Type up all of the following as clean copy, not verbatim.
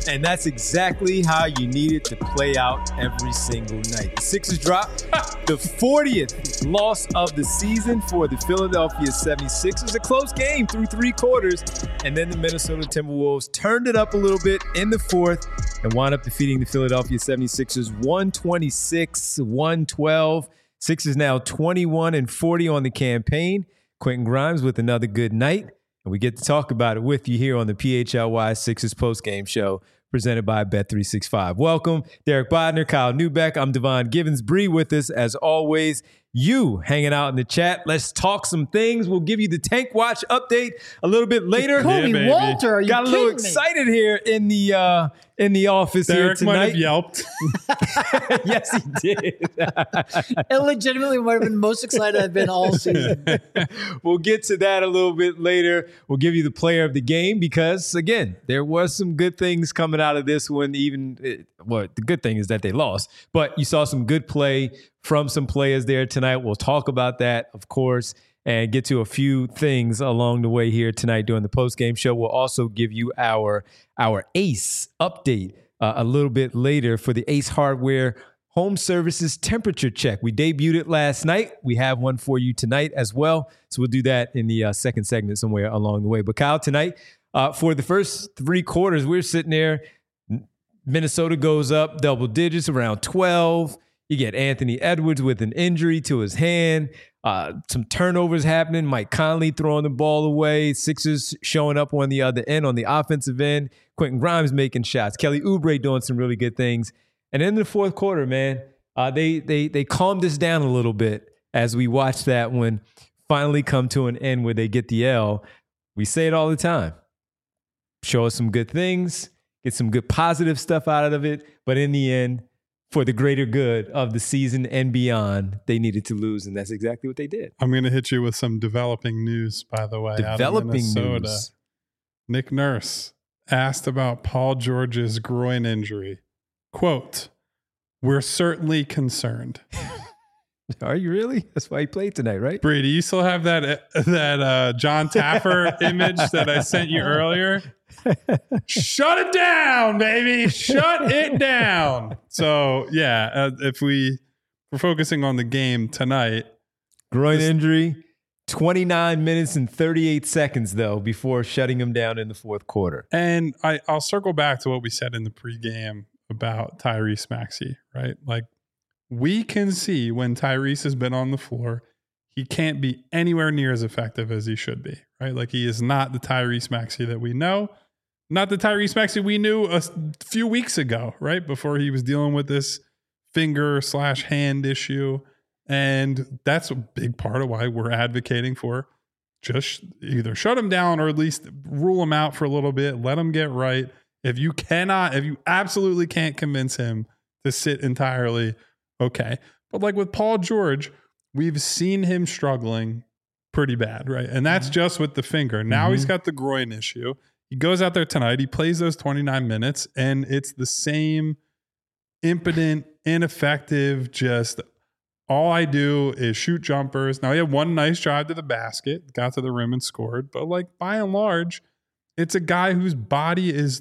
And that's exactly how you need it to play out every single night. The Sixers drop the 40th loss of the season for the Philadelphia 76ers. A close game through 3 quarters. And then the Minnesota Timberwolves turned it up a little bit in the 4th and wound up defeating the Philadelphia 76ers 126-112. Sixers now 21-40 on the campaign. Quentin Grimes with another good night. And we get to talk about it with you here on the PHLY Sixers postgame show presented by Bet365. Welcome, Derek Bodner, Kyle Neubeck. I'm Devon Givens. Bree with us as always. You hanging out in the chat. Let's talk some things. We'll give you the Tank Watch update a little bit later. Jacoby Walter, are you Got a little excited here in the office Derek here tonight. might have yelped. Yes, he did. Illegitimately might have been most excited I've been all season. We'll get to that a little bit later. We'll give you the player of the game because, again, there was some good things coming out of this one. The good thing is that they lost, but you saw some good play from some players there tonight. We'll talk about that, of course, and get to a few things along the way here tonight during the postgame show. We'll also give you our ACE update a little bit later for the ACE Hardware Home Services temperature check. We debuted it last night. We have one for you tonight as well. So we'll do that in the second segment somewhere along the way. But Kyle, tonight, for the first 3 quarters, we're sitting there. Minnesota goes up double digits, around 12. You get Anthony Edwards with an injury to his hand. Some turnovers happening. Mike Conley throwing the ball away. Sixers showing up on the other end, on the offensive end. Quentin Grimes making shots. Kelly Oubre doing some really good things. And in the 4th quarter, man, they calmed us down a little bit as we watched that one finally come to an end where they get the L. We say it all the time. Show us some good things. Get some good positive stuff out of it. But in the end, for the greater good of the season and beyond, they needed to lose, and that's exactly what they did. I'm going to hit you with some developing news, by the way. Developing news. Nick Nurse asked about Paul George's groin injury. Quote, "We're certainly concerned." Are you really? That's why he played tonight, right? Brady, you still have that John Taffer image that I sent you earlier? Shut it down, baby. Shut it down. So, yeah, if we're focusing on the game tonight. Groin injury, 29 minutes and 38 seconds, though, before shutting him down in the 4th quarter. And I'll circle back to what we said in the pregame about Tyrese Maxey, right? Like, we can see when Tyrese has been on the floor, he can't be anywhere near as effective as he should be, right? Like, he is not the Tyrese Maxey that we know. Not the Tyrese Maxey we knew a few weeks ago, right? Before he was dealing with this finger/hand issue. And that's a big part of why we're advocating for just either shut him down or at least rule him out for a little bit. Let him get right. If you absolutely can't convince him to sit entirely, okay. But like with Paul George, we've seen him struggling pretty bad, right? And that's just with the finger. Now he's got the groin issue. He goes out there tonight. He plays those 29 minutes, and it's the same impotent, ineffective, just all I do is shoot jumpers. Now, he had one nice drive to the basket, got to the rim and scored. But like by and large, it's a guy whose body is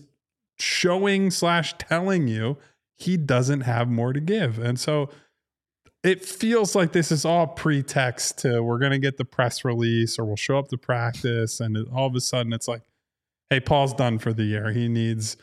showing/telling you he doesn't have more to give. And so it feels like this is all pretext to we're going to get the press release or we'll show up to practice. And all of a sudden it's like, hey, Paul's done for the year. He needs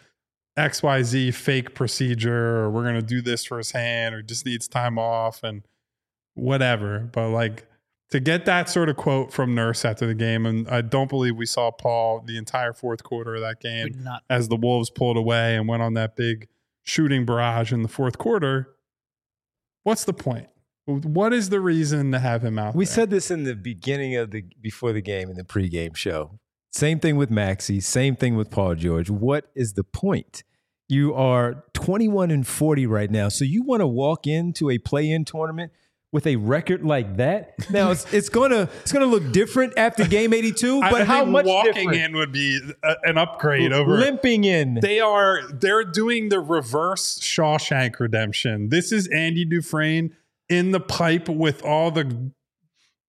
XYZ fake procedure, or we're going to do this for his hand, or just needs time off and whatever. But like to get that sort of quote from Nurse after the game, and I don't believe we saw Paul the entire 4th quarter of that game as the Wolves pulled away and went on that big shooting barrage in the 4th quarter. What's the point? What is the reason to have him out there? We said this in the beginning before the game in the pregame show. Same thing with Maxey. Same thing with Paul George. What is the point? You are 21-40 right now. So you want to walk into a play-in tournament with a record like that? Now it's gonna look different after game 82. But how much walking different? in would be an upgrade over limping in? They're doing the reverse Shawshank Redemption. This is Andy Dufresne in the pipe with all the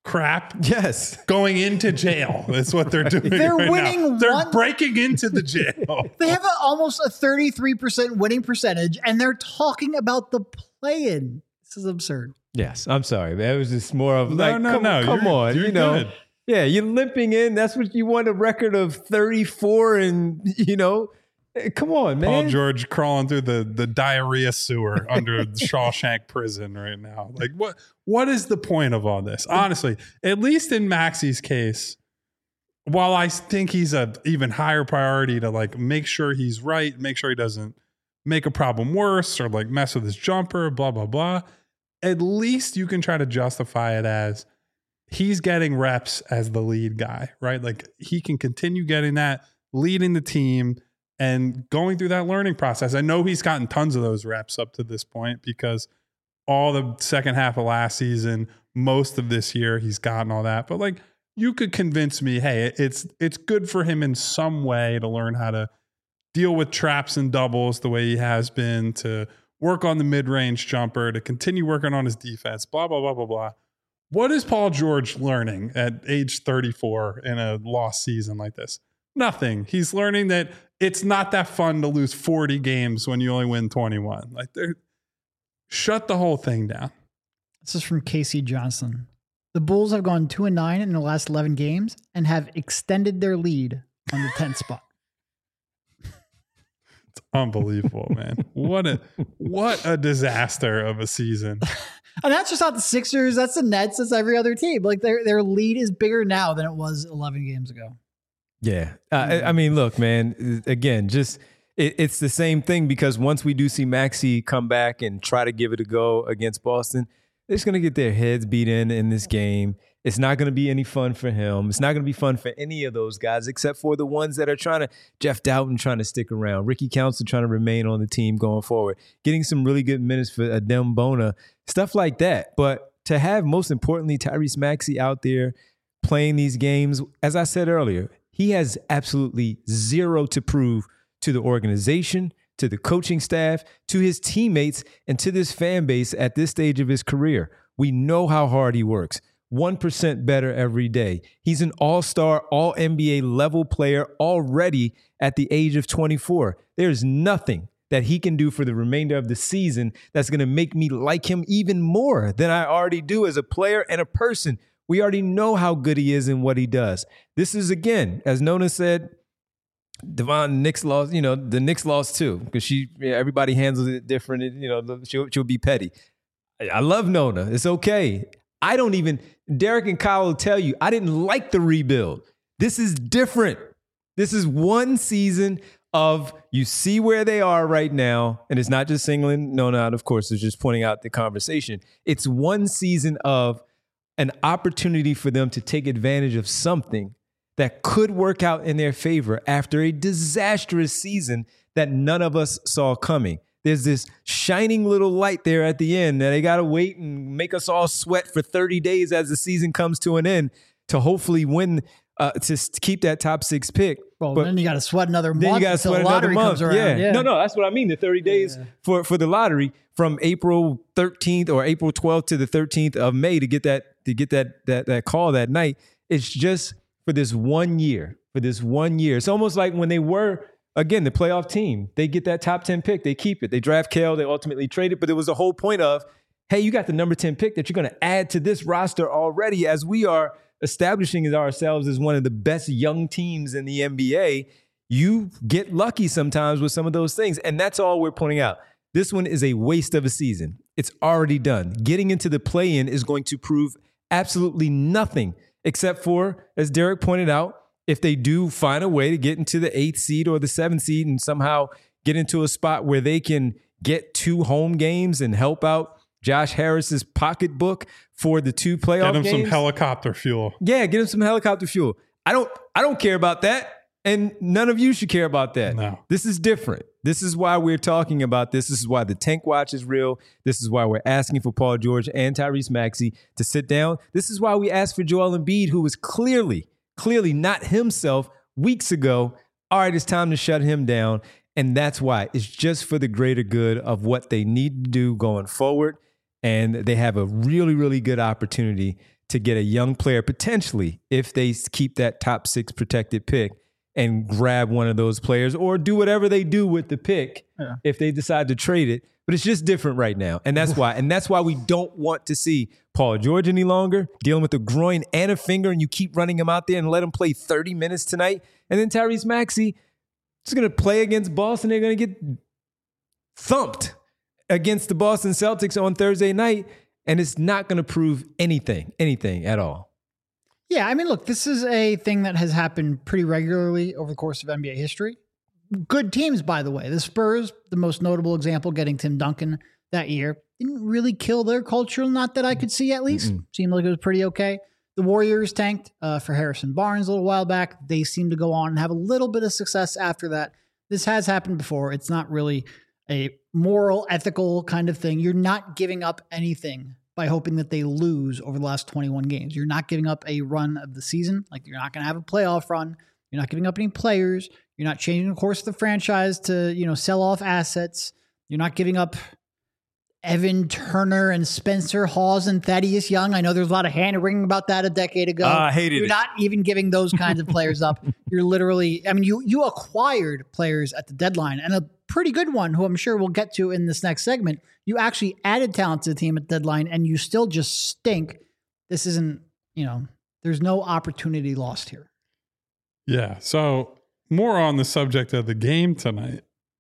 crap. Yes. Going into jail. That's what they're doing. They're right winning now. They're one- breaking into the jail. They have almost a 33% winning percentage, and they're talking about the play-in. This is absurd. Yes. I'm sorry. That was just more of No, come on. You're You know, good. yeah, you're limping in. That's what you want, a record of 34 and, come on, man. Paul George crawling through the diarrhea sewer under the Shawshank prison right now. Like, what is the point of all this? Honestly, at least in Maxi's case, while I think he's a even higher priority to like make sure he's right, make sure he doesn't make a problem worse or like mess with his jumper, blah, blah, blah. At least you can try to justify it as he's getting reps as the lead guy, right? Like he can continue getting that, leading the team and going through that learning process. I know he's gotten tons of those reps up to this point because all the second half of last season, most of this year, he's gotten all that. But like you could convince me, hey, it's good for him in some way to learn how to deal with traps and doubles the way he has been, to work on the mid-range jumper, to continue working on his defense, blah, blah, blah, blah, blah. What is Paul George learning at age 34 in a lost season like this? Nothing. He's learning that it's not that fun to lose 40 games when you only win 21. Like, shut the whole thing down. This is from Casey Johnson. The Bulls have gone 2-9 in the last 11 games and have extended their lead on the 10th spot. It's unbelievable, man. What a disaster of a season. And that's just not the Sixers. That's the Nets. That's every other team. Like their lead is bigger now than it was 11 games ago. Yeah. I mean, look, man, again, just it's the same thing because once we do see Maxey come back and try to give it a go against Boston, they're just going to get their heads beat in this game. It's not going to be any fun for him. It's not going to be fun for any of those guys except for the ones that are trying to, Jeff Doughton trying to stick around, Ricky Council trying to remain on the team going forward, getting some really good minutes for Adem Bona, stuff like that. But to have, most importantly, Tyrese Maxey out there playing these games, as I said earlier, he has absolutely zero to prove to the organization, to the coaching staff, to his teammates, and to this fan base at this stage of his career. We know how hard he works. 1% better every day. He's an all-star, all-NBA level player already at the age of 24. There's nothing that he can do for the remainder of the season that's going to make me like him even more than I already do as a player and a person. We already know how good he is and what he does. This is, again, as Nona said, Devon, Knicks lost, the Knicks lost too because everybody handles it different. She'll be petty. I love Nona. It's okay. Derek and Kyle will tell you, I didn't like the rebuild. This is different. This is one season of, you see where they are right now, and it's not just singling Nona out, of course, it's just pointing out the conversation. It's one season of an opportunity for them to take advantage of something that could work out in their favor after a disastrous season that none of us saw coming. There's this shining little light there at the end that they got to wait and make us all sweat for 30 days as the season comes to an end to hopefully win, to keep that top 6 pick. Well, but then you got to sweat another month. Then you got to sweat another month. Comes around. Yeah. No, that's what I mean. The 30 days for the lottery from April 13th or April 12th to the 13th of May to get that call that night. It's just for this 1 year. It's almost like when they were, again, the playoff team, they get that top 10 pick, they keep it. They draft Kale, they ultimately trade it. But it was the whole point of, hey, you got the number 10 pick that you're going to add to this roster already as we are establishing ourselves as one of the best young teams in the NBA. You get lucky sometimes with some of those things. And that's all we're pointing out. This one is a waste of a season. It's already done. Getting into the play-in is going to prove absolutely nothing except for, as Derek pointed out, if they do find a way to get into the 8th seed or the 7th seed and somehow get into a spot where they can get 2 home games and help out Josh Harris's pocketbook for the 2 playoff games. Get him some helicopter fuel. Yeah, get him some helicopter fuel. I don't care about that. And none of you should care about that. No. This is different. This is why we're talking about this. This is why the Tank Watch is real. This is why we're asking for Paul George and Tyrese Maxey to sit down. This is why we asked for Joel Embiid, who was clearly not himself weeks ago. All right, it's time to shut him down. And that's why. It's just for the greater good of what they need to do going forward. And they have a really, really good opportunity to get a young player, potentially, if they keep that top 6 protected pick, and grab one of those players or do whatever they do with the pick if they decide to trade it. But it's just different right now. And that's why. And that's why we don't want to see Paul George any longer dealing with a groin and a finger, and you keep running him out there and let him play 30 minutes tonight. And then Tyrese Maxey is going to play against Boston. They're going to get thumped against the Boston Celtics on Thursday night. And it's not going to prove anything at all. Yeah, I mean, look, this is a thing that has happened pretty regularly over the course of NBA history. Good teams, by the way. The Spurs, the most notable example, getting Tim Duncan that year, didn't really kill their culture, not that I could see at least. Seemed like it was pretty okay. The Warriors tanked for Harrison Barnes a little while back. They seem to go on and have a little bit of success after that. This has happened before. It's not really a moral, ethical kind of thing. You're not giving up anything by hoping that they lose over the last 21 games. You're not giving up a run of the season. Like, you're not going to have a playoff run. You're not giving up any players. You're not changing the course of the franchise to, sell off assets. You're not giving up Evan Turner and Spencer Hawes and Thaddeus Young. I know there's a lot of hand-wringing about that a decade ago. I hated You're it. not even giving those kinds of players up. You're literally, you acquired players at the deadline, and a pretty good one who I'm sure we'll get to in this next segment. You actually added talent to the team at deadline, and you still just stink. This isn't, there's no opportunity lost here. Yeah. So more on the subject of the game tonight.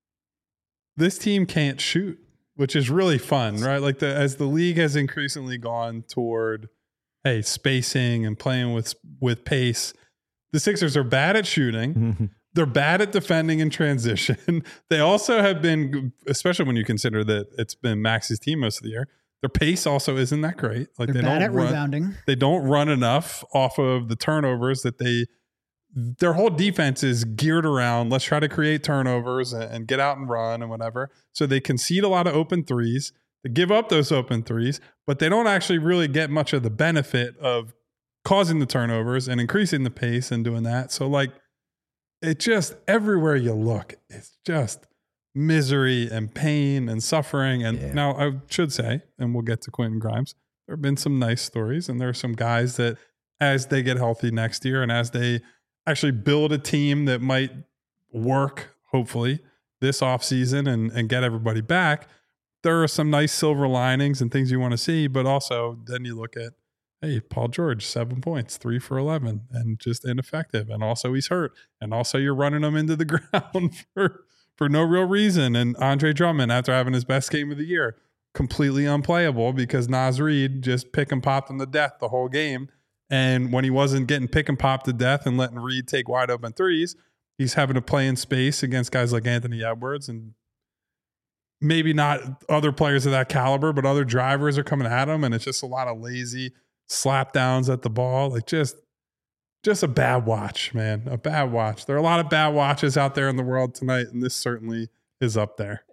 This team can't shoot, which is really fun, right? Like as the league has increasingly gone toward, spacing and playing with pace, the Sixers are bad at shooting. They're bad at defending in transition. They also have been, especially when you consider that it's been Max's team most of the year, their pace also isn't that great. Like They're bad at rebounding. They don't run enough off of the turnovers that their whole defense is geared around, let's try to create turnovers and get out and run and whatever. So they concede a lot of open threes. They give up those open threes, but they don't actually really get much of the benefit of causing the turnovers and increasing the pace and doing that. So it just, everywhere you look, it's just misery and pain and suffering. And now I should say, and we'll get to Quentin Grimes, there have been some nice stories, and there are some guys that as they get healthy next year and as they actually build a team that might work, hopefully, this offseason and get everybody back, there are some nice silver linings and things you want to see. But also then you look at, Paul George, 7 points, 3 for 11, and just ineffective. And also he's hurt. And also you're running him into the ground for no real reason. And Andre Drummond, after having his best game of the year, completely unplayable because Naz Reid just pick and popped him to death the whole game. And when he wasn't getting pick and popped to death and letting Reid take wide open threes, he's having to play in space against guys like Anthony Edwards and maybe not other players of that caliber, but other drivers are coming at him. And it's just a lot of lazy slap downs at the ball. Like just a bad watch, man. A bad watch. There are a lot of bad watches out there in the world tonight, and this certainly is up there.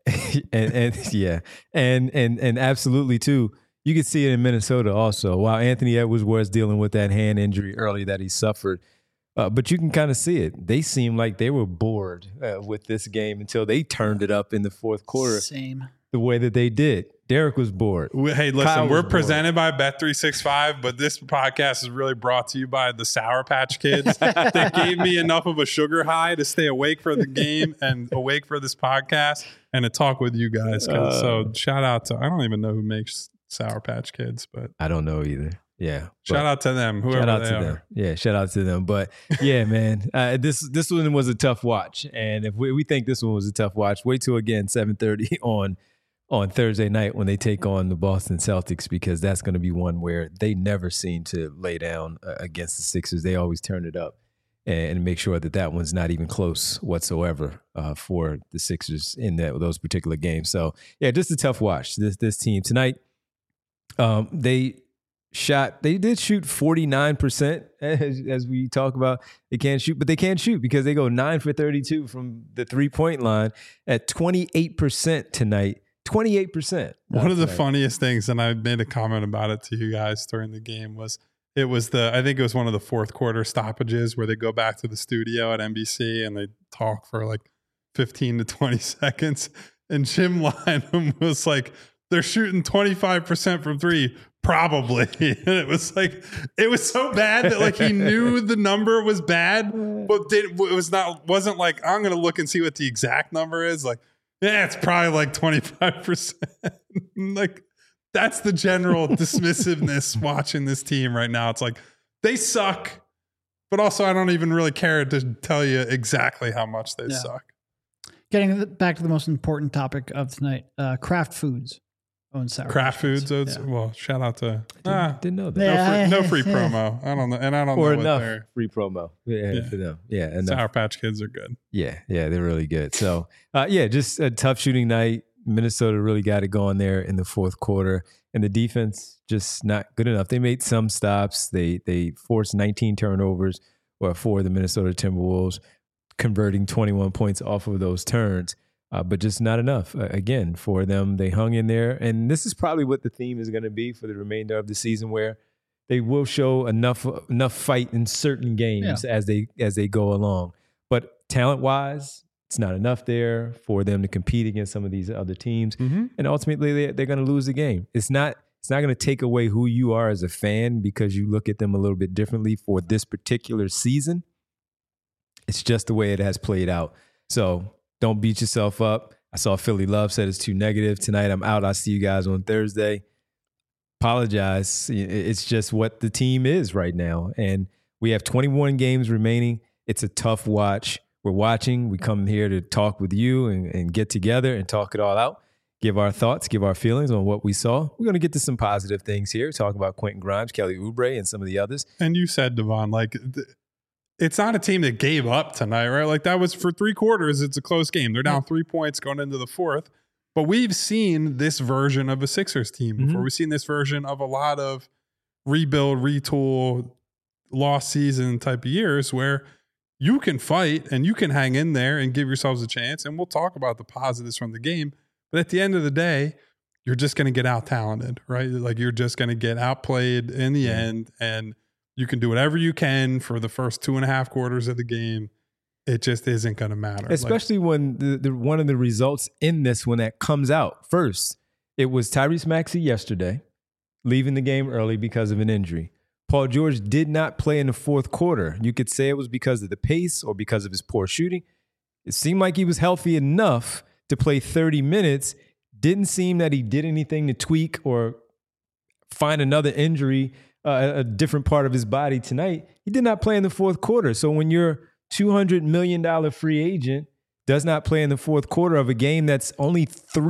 and absolutely too. You could see it in Minnesota also. While Anthony Edwards was dealing with that hand injury early that he suffered, but you can kind of see it. They seemed like they were bored with this game until they turned it up in the fourth quarter. Same. The way that they did. Derek was bored. Hey, listen, we're presented by Bet365, but this podcast is really brought to you by the Sour Patch Kids. They gave me enough of a sugar high to stay awake for the game and awake for this podcast and to talk with you guys. So shout out to, I don't even know who makes Sour Patch Kids, but I don't know either. Yeah. Shout out to them, whoever they are. Them. Yeah, shout out to them. But yeah, man, this one was a tough watch. And if we think this one was a tough watch, wait till again 7:30 on Thursday night when they take on the Boston Celtics, because that's going to be one where they never seem to lay down against the Sixers. They always turn it up and make sure that one's not even close whatsoever for the Sixers in those particular games. So yeah, just a tough watch. This team tonight, they did shoot 49%, as we talk about. They can't shoot, but they can't shoot because they go 9 for 32 from the 3-point line at 28% tonight. 28%. One of the funniest things, and I made a comment about it to you guys during the game, I think it was one of the fourth quarter stoppages where they go back to the studio at NBC and they talk for like 15 to 20 seconds. And Jim Lynam was like, they're shooting 25% from three, probably. And it was so bad that like he knew the number was bad, but wasn't like, I'm going to look and see what the exact number is. Like, yeah, it's probably like 25%. Like, that's the general dismissiveness watching this team right now. It's like, they suck, but also I don't even really care to tell you exactly how much they suck. Getting back to the most important topic of tonight, Kraft Foods owns Sour Kraft Patch Foods owns, well, shout out to... Didn't know that. No free promo. I don't know. And I don't Or know enough what they're... free promo. Yeah, for them. Yeah, enough. Sour Patch Kids are good. Yeah, they're really good. So, just a tough shooting night. Minnesota really got it going there in the fourth quarter, and the defense just not good enough. They made some stops. They forced 19 turnovers for the Minnesota Timberwolves, converting 21 points off of those turns, but just not enough. Again, for them, they hung in there, and this is probably what the theme is going to be for the remainder of the season, where they will show enough fight in certain games as they go along. But talent-wise, it's not enough there for them to compete against some of these other teams, and ultimately they're going to lose the game. It's not going to take away who you are as a fan because you look at them a little bit differently for this particular season. It's just the way it has played out. So don't beat yourself up. I saw Philly Love said it's too negative. Tonight I'm out. I'll see you guys on Thursday. Apologize. It's just what the team is right now. And we have 21 games remaining. It's a tough watch. We're watching. We come here to talk with you and get together and talk it all out. Give our thoughts, give our feelings on what we saw. We're going to get to some positive things here. Talk about Quentin Grimes, Kelly Oubre, and some of the others. And you said, Devon, like... it's not a team that gave up tonight, right? Like that was for 3 quarters. It's a close game. They're down 3 points going into the fourth. But we've seen this version of a Sixers team before. We've seen this version of a lot of rebuild, retool, lost season type of years where you can fight and you can hang in there and give yourselves a chance. And we'll talk about the positives from the game. But at the end of the day, you're just going to get out-talented, right? Like you're just going to get outplayed in the end, and you can do whatever you can for the first 2.5 quarters of the game. It just isn't going to matter. Especially when the one of the results in this, when that comes out first, it was Tyrese Maxey yesterday leaving the game early because of an injury. Paul George did not play in the fourth quarter. You could say it was because of the pace or because of his poor shooting. It seemed like he was healthy enough to play 30 minutes. Didn't seem that he did anything to tweak or find another injury, a different part of his body tonight. He did not play in the fourth quarter. So when your $200 million free agent does not play in the fourth quarter of a game that's only a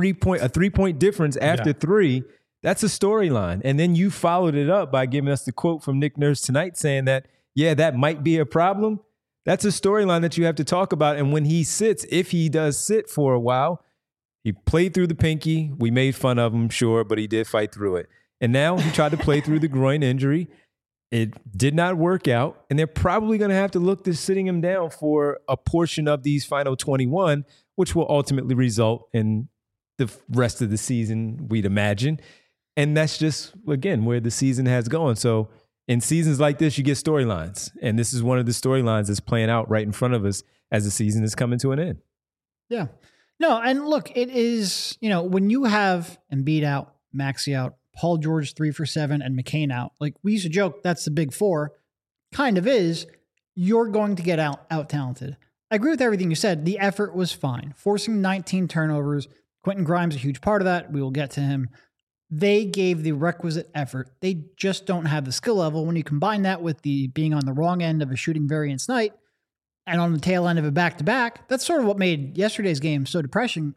3-point difference after 3, that's a storyline. And then you followed it up by giving us the quote from Nick Nurse tonight saying that, that might be a problem. That's a storyline that you have to talk about. And when he sits, if he does sit for a while, he played through the pinky. We made fun of him, sure, but he did fight through it. And now he tried to play through the groin injury. It did not work out. And they're probably going to have to look to sitting him down for a portion of these final 21, which will ultimately result in the rest of the season, we'd imagine. And that's just, again, where the season has gone. So in seasons like this, you get storylines. And this is one of the storylines that's playing out right in front of us as the season is coming to an end. Yeah. No, and look, it is, when you have Embiid out, Maxey out, Paul George 3 for 7, and McCain out, like we used to joke, that's the big 4. Kind of is. You're going to get out-talented. I agree with everything you said. The effort was fine. Forcing 19 turnovers. Quentin Grimes, a huge part of that. We will get to him. They gave the requisite effort. They just don't have the skill level. When you combine that with the being on the wrong end of a shooting variance night and on the tail end of a back-to-back, that's sort of what made yesterday's game so depressing,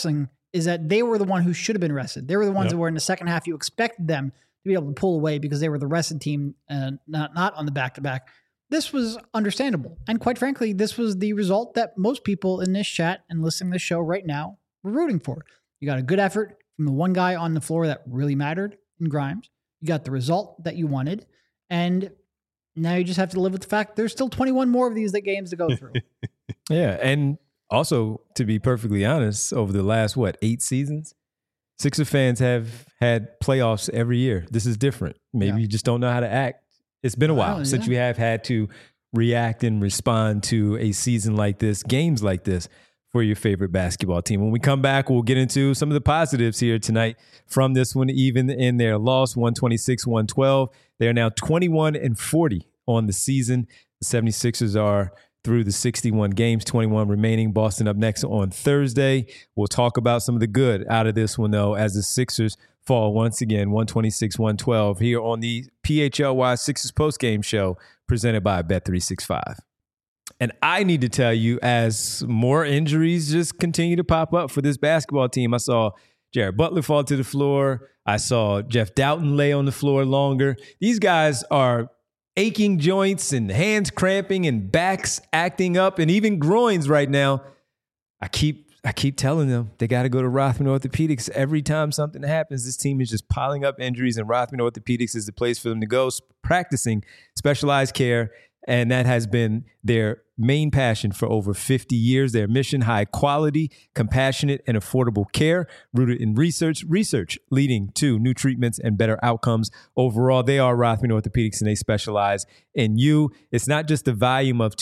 is that they were the one who should have been rested. They were the ones that were in the second half. You expected them to be able to pull away because they were the rested team and not on the back-to-back. This was understandable. And quite frankly, this was the result that most people in this chat and listening to this show right now were rooting for. You got a good effort from the one guy on the floor that really mattered in Grimes. You got the result that you wanted. And now you just have to live with the fact there's still 21 more of these games to go through. Yeah. And also, to be perfectly honest, over the last, 8 seasons, Sixer fans have had playoffs every year. This is different. Maybe you just don't know how to act. It's been a while since you have had to react and respond to a season like this, games like this. for your favorite basketball team. When we come back, we'll get into some of the positives here tonight from this one, even in their loss, 126-112. They're now 21-40 on the season. The 76ers are through the 61 games, 21 remaining. Boston up next on Thursday. We'll talk about some of the good out of this one, though, as the Sixers fall once again, 126-112 here on the PHLY Sixers postgame show presented by Bet365. And I need to tell you, as more injuries just continue to pop up for this basketball team, I saw Jared Butler fall to the floor. I saw Jeff Doughton lay on the floor longer. These guys are aching joints and hands cramping and backs acting up and even groins right now. I keep telling them they got to go to Rothman Orthopedics every time something happens. This team is just piling up injuries, and Rothman Orthopedics is the place for them to go, practicing specialized care. And that has been their main passion for over 50 years. Their mission, high quality, compassionate, and affordable care rooted in research leading to new treatments and better outcomes. Overall, they are Rothman Orthopedics, and they specialize in you. It's not just the volume of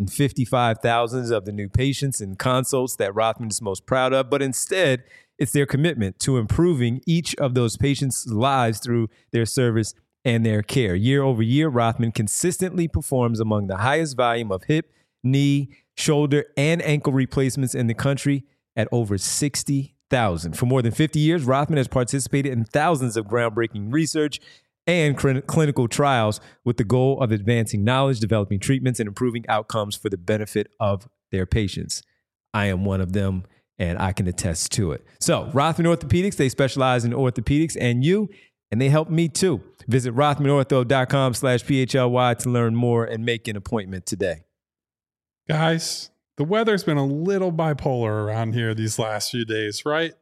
255,000 of the new patients and consults that Rothman is most proud of, but instead, it's their commitment to improving each of those patients' lives through their service and their care. Year over year, Rothman consistently performs among the highest volume of hip, knee, shoulder, and ankle replacements in the country at over 60,000. For more than 50 years, Rothman has participated in thousands of groundbreaking research and clinical trials with the goal of advancing knowledge, developing treatments, and improving outcomes for the benefit of their patients. I am one of them, and I can attest to it. So, Rothman Orthopedics, they specialize in orthopedics and they help me too. Visit rothmanortho.com/PHLY to learn more and make an appointment today. Guys, the weather's been a little bipolar around here these last few days, right?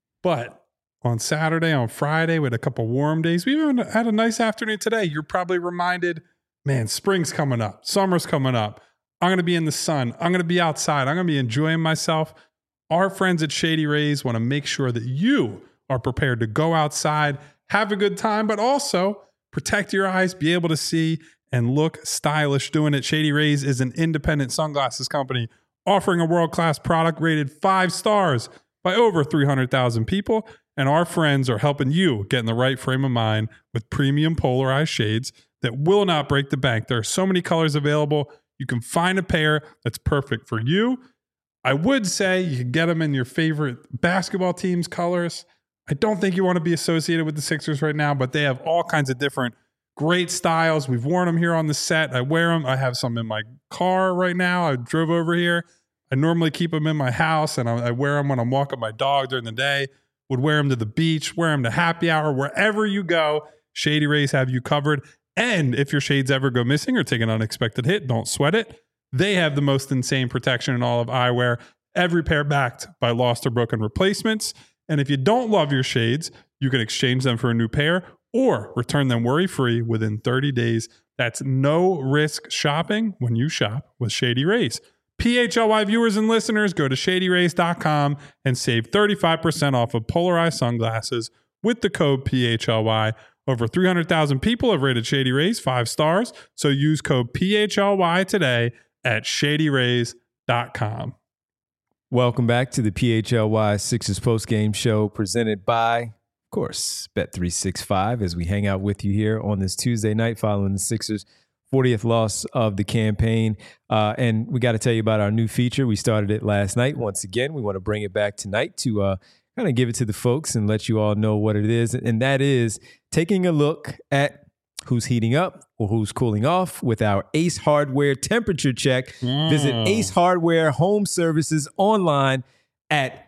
But on Saturday, on Friday, we had a couple warm days. We even had a nice afternoon today. You're probably reminded, man, spring's coming up. Summer's coming up. I'm going to be in the sun. I'm going to be outside. I'm going to be enjoying myself. Our friends at Shady Rays want to make sure that you are prepared to go outside, have a good time, but also protect your eyes, be able to see and look stylish doing it. Shady Rays is an independent sunglasses company offering a world-class product rated 5 stars by over 300,000 people. And our friends are helping you get in the right frame of mind with premium polarized shades that will not break the bank. There are so many colors available. You can find a pair that's perfect for you. I would say you can get them in your favorite basketball team's colors. I don't think you want to be associated with the Sixers right now, but they have all kinds of different great styles. We've worn them here on the set. I wear them. I have some in my car right now. I drove over here. I normally keep them in my house, and I wear them when I'm walking my dog during the day. Would wear them to the beach, wear them to happy hour. Wherever you go, Shady Rays have you covered. And if your shades ever go missing or take an unexpected hit, don't sweat it. They have the most insane protection in all of eyewear. Every pair backed by lost or broken replacements. And if you don't love your shades, you can exchange them for a new pair or return them worry-free within 30 days. That's no-risk shopping when you shop with Shady Rays. PHLY viewers and listeners, go to shadyrays.com and save 35% off of polarized sunglasses with the code PHLY. Over 300,000 people have rated Shady Rays 5 stars, so use code PHLY today at shadyrays.com. Welcome back to the PHLY Sixers postgame show presented by, of course, Bet365 as we hang out with you here on this Tuesday night following the Sixers' 40th loss of the campaign. And we got to tell you about our new feature. We started it last night. Once again, we want to bring it back tonight to kind of give it to the folks and let you all know what it is. And that is taking a look at who's heating up or who's cooling off with our Ace Hardware temperature check. Visit Ace Hardware Home Services online at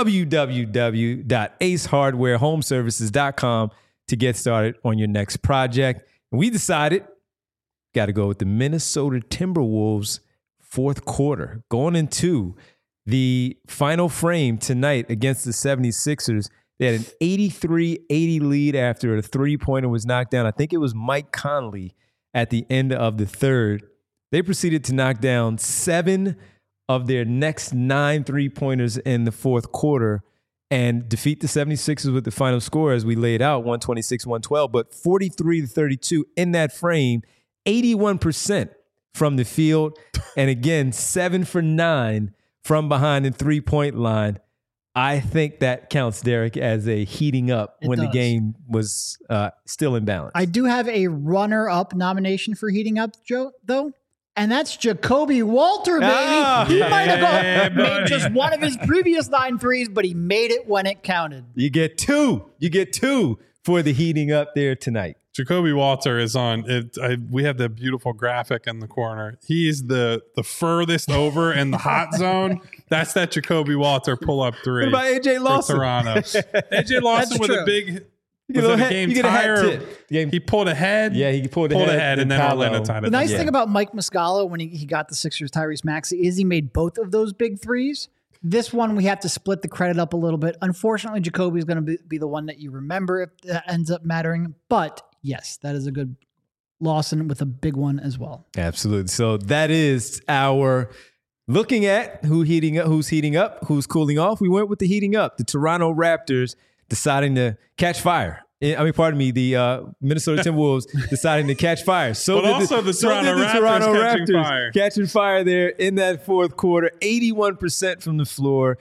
www.acehardwarehomeservices.com to get started on your next project. And we decided, got to go with the Minnesota Timberwolves fourth quarter. Going into the final frame tonight against the 76ers, they had an 83-80 lead after a three-pointer was knocked down. I think it was Mike Conley at the end of the third. They proceeded to knock down 7 of their next 9 three-pointers in the fourth quarter and defeat the 76ers with the final score as we laid out, 126-112, but 43-32 in that frame, 81% from the field. And again, 7 for 9 from behind the 3-point line. I think that counts, Derek, as a heating up when the game was still in balance. I do have a runner-up nomination for heating up, Joe, though. And that's Jacoby Walter, baby. He might have made just one of his previous 9 threes, but he made it when it counted. You get 2. You get 2 for the heating up there tonight. Jacoby Walter is on it. We have the beautiful graphic in the corner. He's the furthest over in the hot zone. That's that Jacoby Walter pull-up 3. What about AJ Lawson? For Toronto. AJ Lawson with a big... Was it a game tire? He pulled ahead. Yeah, he pulled ahead, and then Orlando tied it. The nice thing about Mike Muscala when he got the Sixers Tyrese Maxey is he made both of those big threes. This one, we have to split the credit up a little bit. Unfortunately, Jacoby is going to be the one that you remember if that ends up mattering. But yes, that is a good Lawson with a big one as well. Absolutely. So that is our looking at who's heating up, who's cooling off. We went with the heating up. The Toronto Raptors deciding to catch fire. The Minnesota Timberwolves deciding to catch fire. But also the Toronto Raptors catching fire there in that fourth quarter. 81% from the floor,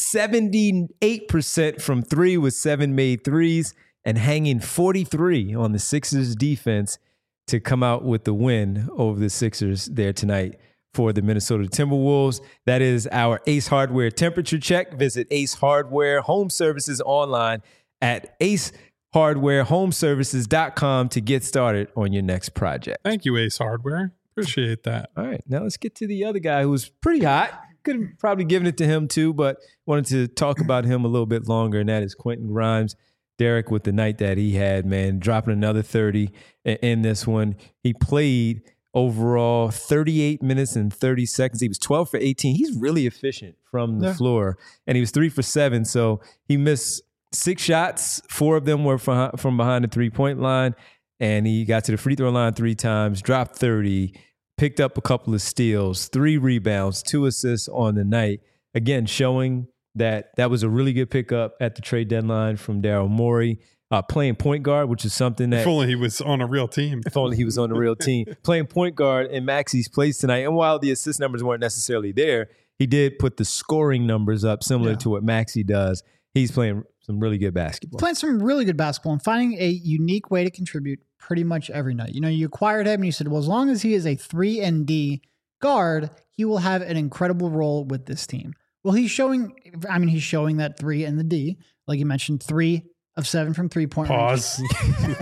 78% from 3 with 7 made threes, and hanging 43 on the Sixers defense to come out with the win over the Sixers there tonight for the Minnesota Timberwolves. That is our Ace Hardware temperature check. Visit Ace Hardware Home Services online at acehardwarehomeservices.com to get started on your next project. Thank you, Ace Hardware. Appreciate that. All right, now let's get to the other guy who was pretty hot. Could have probably given it to him too, but wanted to talk about him a little bit longer, and that is Quentin Grimes. Derek, with the night that he had, man, dropping another 30 in this one. He played overall 38 minutes and 30 seconds. He was 12 for 18. He's really efficient from the floor, and he was 3 for 7. So he missed 6 shots. 4 of them were from behind the 3-point line, and he got to the free throw line 3 times, dropped 30, picked up a couple of steals, 3 rebounds, 2 assists on the night. Again, showing that was a really good pickup at the trade deadline from Daryl Morey. Playing point guard, which is something that... If only he was on a real team. If only he was on a real team. Playing point guard in Maxey's place tonight. And while the assist numbers weren't necessarily there, he did put the scoring numbers up similar to what Maxey does. He's playing some really good basketball. Playing some really good basketball and finding a unique way to contribute pretty much every night. You know, you acquired him and you said, well, as long as he is a 3-and-D guard, he will have an incredible role with this team. Well, he's showing that 3 and the D. Like you mentioned, 3 of 7 from 3-point Pause. range.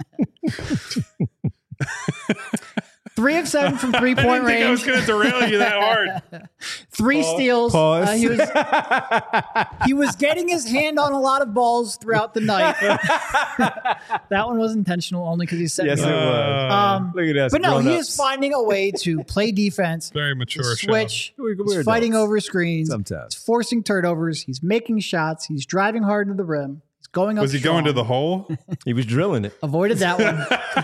3 of 7 from 3-point range. I was going to derail you that hard. 3 steals. Pause. He was getting his hand on a lot of balls throughout the night. That one was intentional only because he's setting. Yes, it was. Look at that. But no, he is finding a way to play defense. Very mature. Switch. He's fighting over screens. Sometimes. He's forcing turnovers. He's making shots. He's driving hard to the rim. He's going up. Was he going to the hole? He was drilling it. Avoided that one.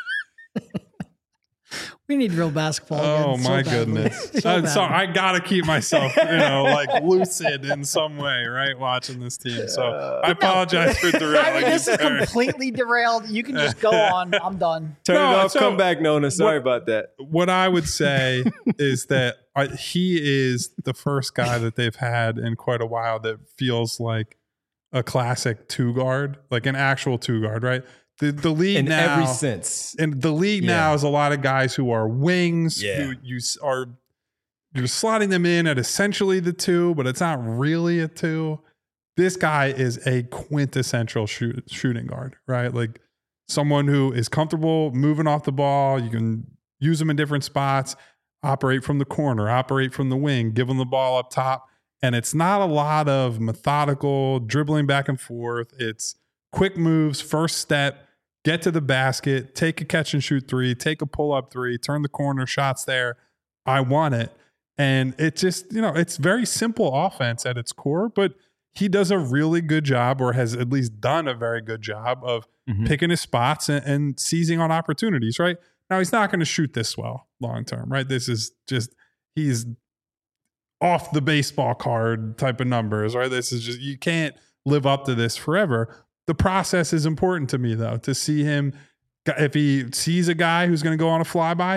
We need real basketball again. Oh my goodness! So I gotta keep myself, lucid in some way, right? Watching this team, so I apologize for derailing. This is completely derailed. You can just go on. I'm done. Turn it off. Come back, Nona. Sorry about that. What I would say is that he is the first guy that they've had in quite a while that feels like a classic 2-guard, like an actual 2-guard, right? The league in now, every sense. And the league now is a lot of guys who are wings, who you're slotting them in at essentially the 2, but it's not really a 2. This guy is a quintessential shooting guard, right? Like someone who is comfortable moving off the ball. You can use them in different spots, operate from the corner, operate from the wing, give them the ball up top. And it's not a lot of methodical dribbling back and forth. It's quick moves, first step, get to the basket, take a catch and shoot 3, take a pull up 3, turn the corner, shots there. I want it. And it just, it's very simple offense at its core, but he does a really good job, or has at least done a very good job of picking his spots and seizing on opportunities, right? Now, he's not going to shoot this well long term, right? This is just, he's off the baseball card type of numbers, right? This is just, you can't live up to this forever. The process is important to me, though, to see him. If he sees a guy who's going to go on a flyby,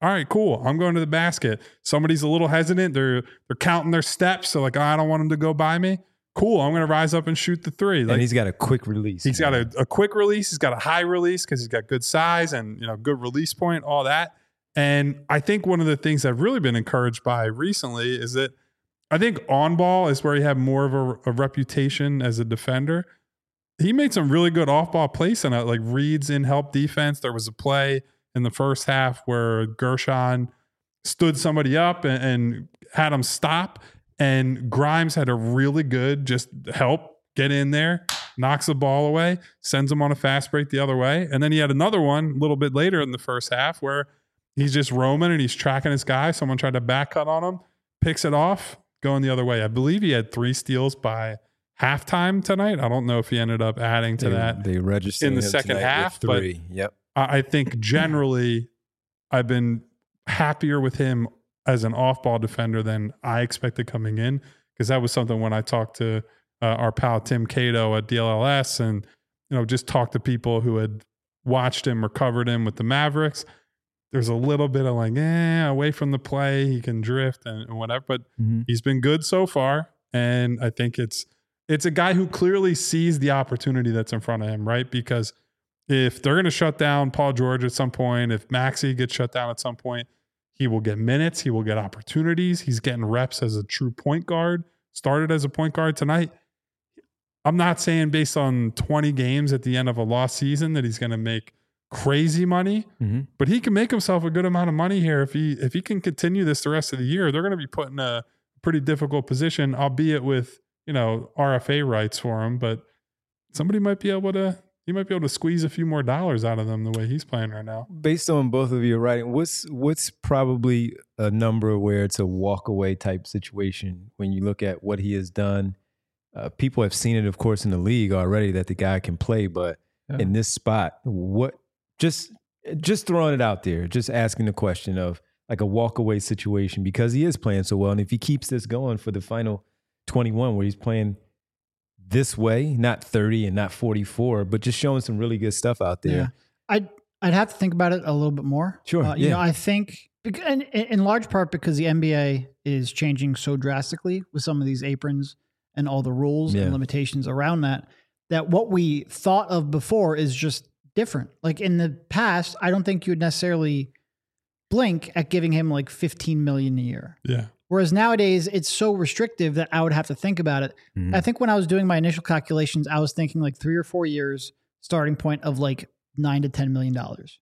All right, cool. I'm going to the basket. Somebody's a little hesitant. They're counting their steps. So like, I don't want them to go by me. Cool. I'm going to rise up and shoot the three. Like, and he's got a quick release. He's got a quick release. He's got a high release because he's got good size and, good release point, all that. And I think one of the things I've really been encouraged by recently is that I think on ball is where he had more of a reputation as a defender. He made some really good off ball plays tonight, like reads in help defense. There was a play in the first half where Gershon stood somebody up and had him stop. And Grimes had a really good just help get in there, knocks the ball away, sends him on a fast break the other way. And then he had another one a little bit later in the first half where he's just roaming and he's tracking his guy. Someone tried to back cut on him, picks it off, going the other way. I believe he had 3 steals by halftime tonight. I don't know if he ended up adding to that. They registered in the second half. 3. Yep. I think generally I've been happier with him as an off-ball defender than I expected coming in, because that was something when I talked to our pal Tim Cato at DLLS and just talked to people who had watched him or covered him with the Mavericks. There's a little bit of like, away from the play, he can drift and whatever, but he's been good so far. And I think it's a guy who clearly sees the opportunity that's in front of him, right? Because if they're going to shut down Paul George at some point, if Maxey gets shut down at some point, he will get minutes. He will get opportunities. He's getting reps as a true point guard, started as a point guard tonight. I'm not saying based on 20 games at the end of a lost season that he's going to make crazy money, but he can make himself a good amount of money here. If he can continue this the rest of the year, they're going to be put in a pretty difficult position, albeit with, RFA rights for him, but somebody might be able to squeeze a few more dollars out of them the way he's playing right now. Based on both of your writing, what's probably a number where it's a walk away type situation when you look at what he has done? People have seen it, of course, in the league already that the guy can play, but in this spot, what just throwing it out there, just asking the question of like a walk away situation because he is playing so well. And if he keeps this going for the final 21 where he's playing this way, not 30 and not 44, but just showing some really good stuff out there. Yeah. I'd have to think about it a little bit more. Sure. I think in large part because the NBA is changing so drastically with some of these aprons and all the rules and limitations around that what we thought of before is just different. Like in the past, I don't think you would necessarily blink at giving him like $15 million a year. Yeah. Whereas nowadays it's so restrictive that I would have to think about it. I think when I was doing my initial calculations, I was thinking like 3 or 4 years starting point of like $9 to $10 million.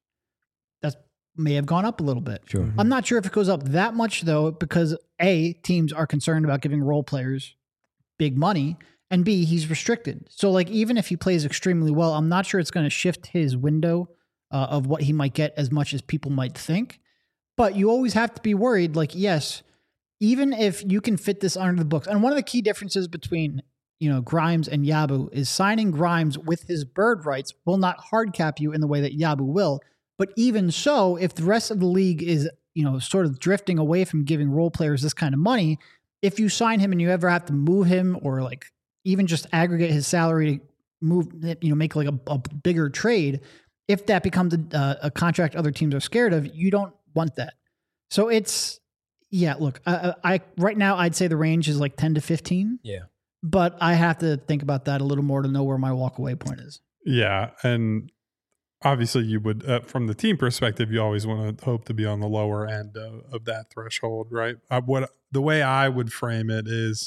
That may have gone up a little bit. Sure. I'm not sure if it goes up that much though, because A, teams are concerned about giving role players big money, and B, he's restricted. So like even if he plays extremely well, I'm not sure it's going to shift his window of what he might get as much as people might think. But you always have to be worried, like, yes, even if you can fit this under the books. And one of the key differences between, Grimes and Yabu is signing Grimes with his bird rights will not hard cap you in the way that Yabu will. But even so, if the rest of the league is, sort of drifting away from giving role players this kind of money, if you sign him and you ever have to move him or like even just aggregate his salary to move, make like a bigger trade, if that becomes a contract other teams are scared of, you don't want that. So it's, look, I right now I'd say the range is like 10 to 15. Yeah. But I have to think about that a little more to know where my walk away point is. Yeah. And obviously you would, from the team perspective, you always want to hope to be on the lower end of that threshold, right? The way I would frame it is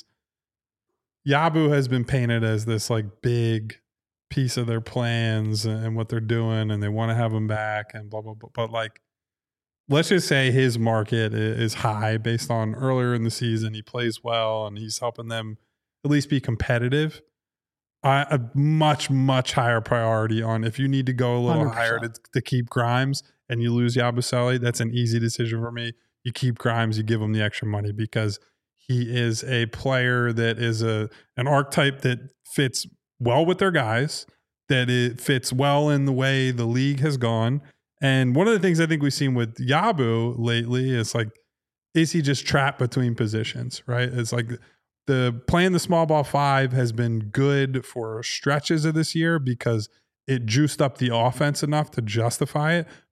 Yabu has been painted as this like big piece of their plans and what they're doing, and they want to have him back and blah, blah, blah. But like, let's just say his market is high based on earlier in the season. He plays well and he's helping them at least be competitive. A much, much higher priority on if you need to go a little 100%. higher to keep Grimes and you lose Yabusele, that's an easy decision for me. You keep Grimes, you give him the extra money because he is a player that is an archetype that fits well with their guys, that it fits well in the way the league has gone. And one of the things I think we've seen with Yabu lately is like, is he just trapped between positions, right? It's like playing the small ball 5 has been good for stretches of this year because it juiced up the offense enough to justify it.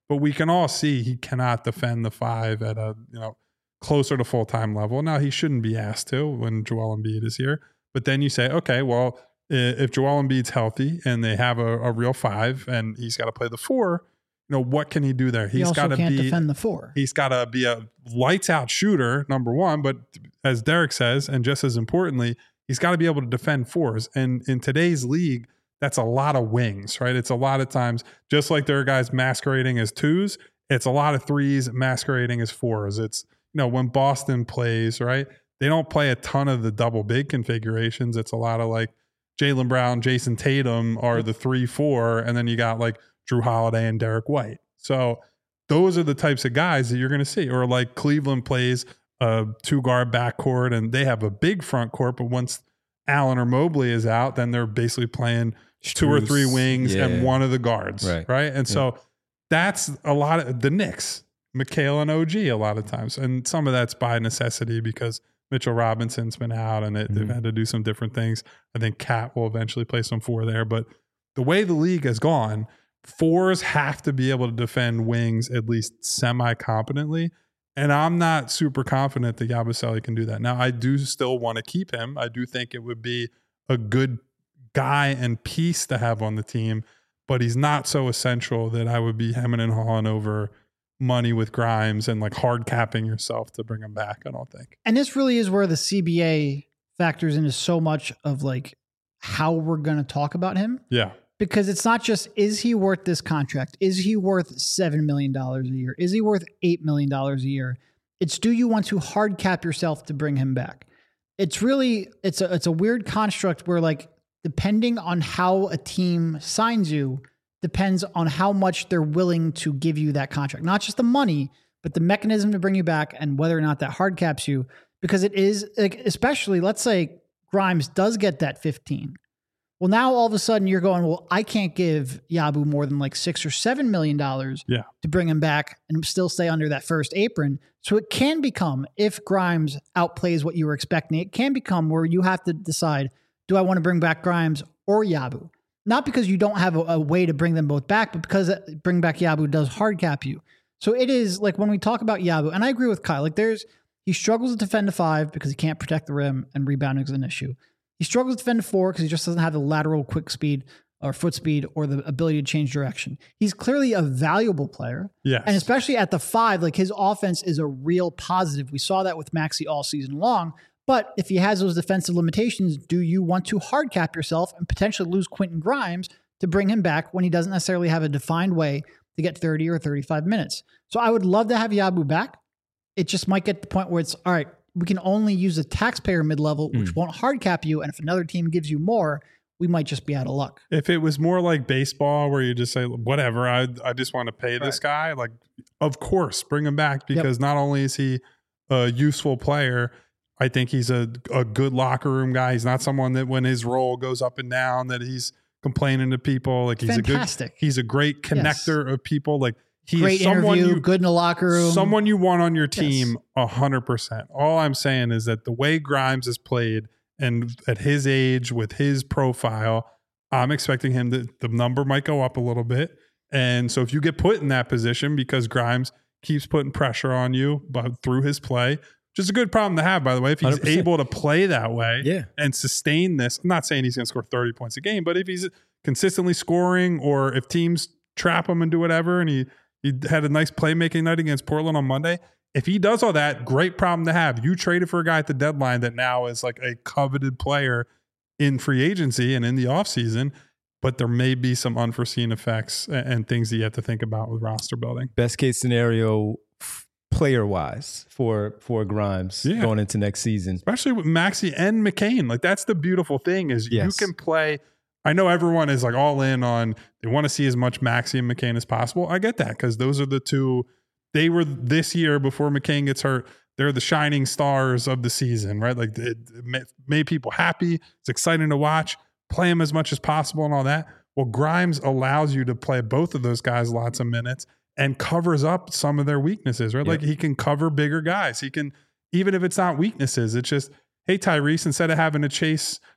but we can all see he cannot defend the 5 at a, closer to full-time level. Now, he shouldn't be asked to when Joel Embiid is here. But then you say, okay, well, if Joel Embiid's healthy and they have a real 5 and he's got to play the 4, what can he do there? He also can't defend the 4. He's got to be a lights-out shooter, number one. But as Derek says, and just as importantly, he's got to be able to defend 4s. And in today's league, that's a lot of wings, right? It's a lot of times, just like there are guys masquerading as 2s, it's a lot of 3s masquerading as 4s. It's, when Boston plays, right, they don't play a ton of the double big configurations. It's a lot of like Jaylen Brown, Jason Tatum are the 3-4, and then you got like Drew Holiday and Derek White. So those are the types of guys that you're going to see. Or like Cleveland plays a 2-guard backcourt and they have a big front court, but once Allen or Mobley is out, then they're basically playing 2 or 3 wings and one of the guards, right? And so that's a lot of the Knicks, Mikal and OG a lot of times. And some of that's by necessity because Mitchell Robinson's been out and they've had to do some different things. I think Cat will eventually play some 4 there. But the way the league has gone, 4s have to be able to defend wings at least semi-competently. And I'm not super confident that Yabusele can do that. Now, I do still want to keep him. I do think it would be a good guy and piece to have on the team, but he's not so essential that I would be hemming and hawing over money with Grimes and like hard capping yourself to bring him back, I don't think. And this really is where the CBA factors into so much of like how we're going to talk about him. Yeah. Because it's not just, is he worth this contract? Is he worth $7 million a year? Is he worth $8 million a year? It's, do you want to hard cap yourself to bring him back? It's really, it's a weird construct where like, depending on how a team signs you, depends on how much they're willing to give you that contract. Not just the money, but the mechanism to bring you back and whether or not that hard caps you. Because it is, like, especially, let's say Grimes does get that 15. Well, now all of a sudden you're going, well, I can't give Yabu more than like $6 or $7 million to bring him back and still stay under that first apron. So it can become, if Grimes outplays what you were expecting, it can become where you have to decide, do I want to bring back Grimes or Yabu? Not because you don't have a way to bring them both back, but because bring back Yabu does hard cap you. So it is like when we talk about Yabu, and I agree with Kyle, like he struggles to defend a 5 because he can't protect the rim and rebounding is an issue. He struggles to defend a 4 because he just doesn't have the lateral quick speed or foot speed or the ability to change direction. He's clearly a valuable player. Yes. And especially at the 5, like his offense is a real positive. We saw that with Maxey all season long. But if he has those defensive limitations, do you want to hard cap yourself and potentially lose Quentin Grimes to bring him back when he doesn't necessarily have a defined way to get 30 or 35 minutes? So I would love to have Yabu back. It just might get to the point where it's, all right, we can only use a taxpayer mid-level, which won't hard cap you. And if another team gives you more, we might just be out of luck. If it was more like baseball where you just say, whatever, I just want to pay this guy, like, of course, bring him back because not only is he a useful player, I think he's a good locker room guy. He's not someone that when his role goes up and down that he's complaining to people. Like he's a great connector of people. Like he great is someone interview, good in the locker room. Someone you want on your team 100%. All I'm saying is that the way Grimes is played and at his age with his profile, I'm expecting him the number might go up a little bit. And so if you get put in that position because Grimes keeps putting pressure on you through his play, which is a good problem to have, by the way, if he's 100%. Able to play that way and sustain this. I'm not saying he's going to score 30 points a game, but if he's consistently scoring or if teams trap him and do whatever, and he had a nice playmaking night against Portland on Monday, if he does all that, great problem to have. You traded for a guy at the deadline that now is like a coveted player in free agency and in the offseason, but there may be some unforeseen effects and things that you have to think about with roster building. Best case scenario, player-wise for Grimes going into next season. Especially with Maxey and McCain. Like, that's the beautiful thing is you can play. I know everyone is like all in on, they want to see as much Maxey and McCain as possible. I get that because those are the two. They were this year before McCain gets hurt. They're the shining stars of the season, right? Like it made people happy. It's exciting to watch. Play them as much as possible and all that. Well, Grimes allows you to play both of those guys lots of minutes and covers up some of their weaknesses, right? Like he can cover bigger guys. He can, even if it's not weaknesses, it's just, hey, Tyrese, instead of having to chase,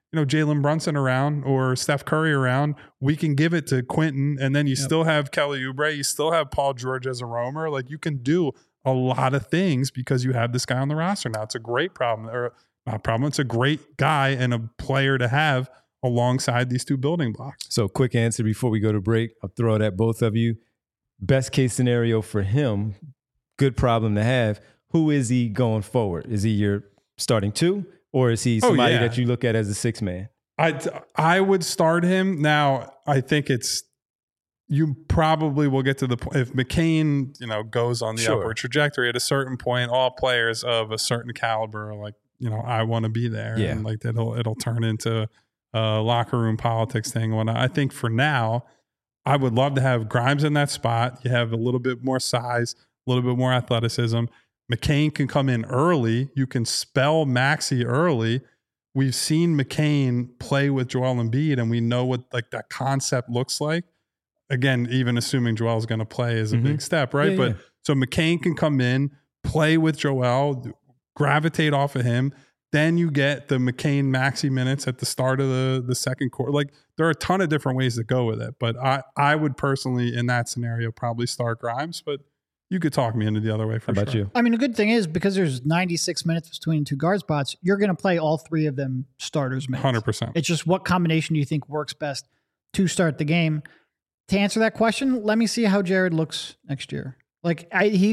Jalen Brunson around or Steph Curry around, we can give it to Quentin, and then you still have Kelly Oubre, you still have Paul George as a roamer. Like, you can do a lot of things because you have this guy on the roster now. It's a great problem, or not a problem. It's a great guy and a player to have alongside these two building blocks. So, quick answer before we go to break. I'll throw it at both of you. Best case scenario for him, good problem to have. Who is he going forward? Is he your starting two? Or is he somebody that you look at as a six man? I would start him. Now, I think you probably will get to the point if McCain, goes on the upward trajectory at a certain point, all players of a certain caliber are like, I want to be there. Yeah. And like it'll turn into a locker room politics thing. When I think for now, I would love to have Grimes in that spot. You have a little bit more size, a little bit more athleticism. McCain can come in early. You can spell Maxey early. We've seen McCain play with Joel Embiid, and we know what like that concept looks like. Again, even assuming Joel's going to play is a big step, right? Yeah. So McCain can come in, play with Joel, gravitate off of him. Then you get the McCain Maxey minutes at the start of the second quarter. Like, there are a ton of different ways to go with it. But I would personally, in that scenario, probably start Grimes. But you could talk me into the other way for sure. How about you? I mean, the good thing is because there's 96 minutes between two guard spots, you're going to play all three of them starters minutes. 100%. It's just what combination do you think works best to start the game? To answer that question, let me see how Jared looks next year. Like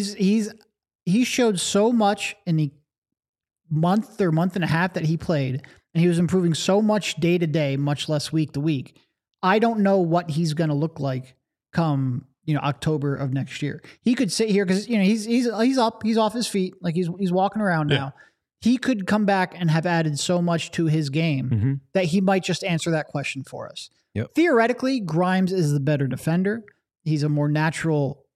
he showed so much in the month or month and a half that he played, and he was improving so much day to day, much less week to week. I don't know what he's going to look like come October of next year. He could sit here because he's up, he's off his feet, like he's walking around now. He could come back and have added so much to his game that he might just answer that question for us. Yep. Theoretically, Grimes is the better defender. He's a more natural,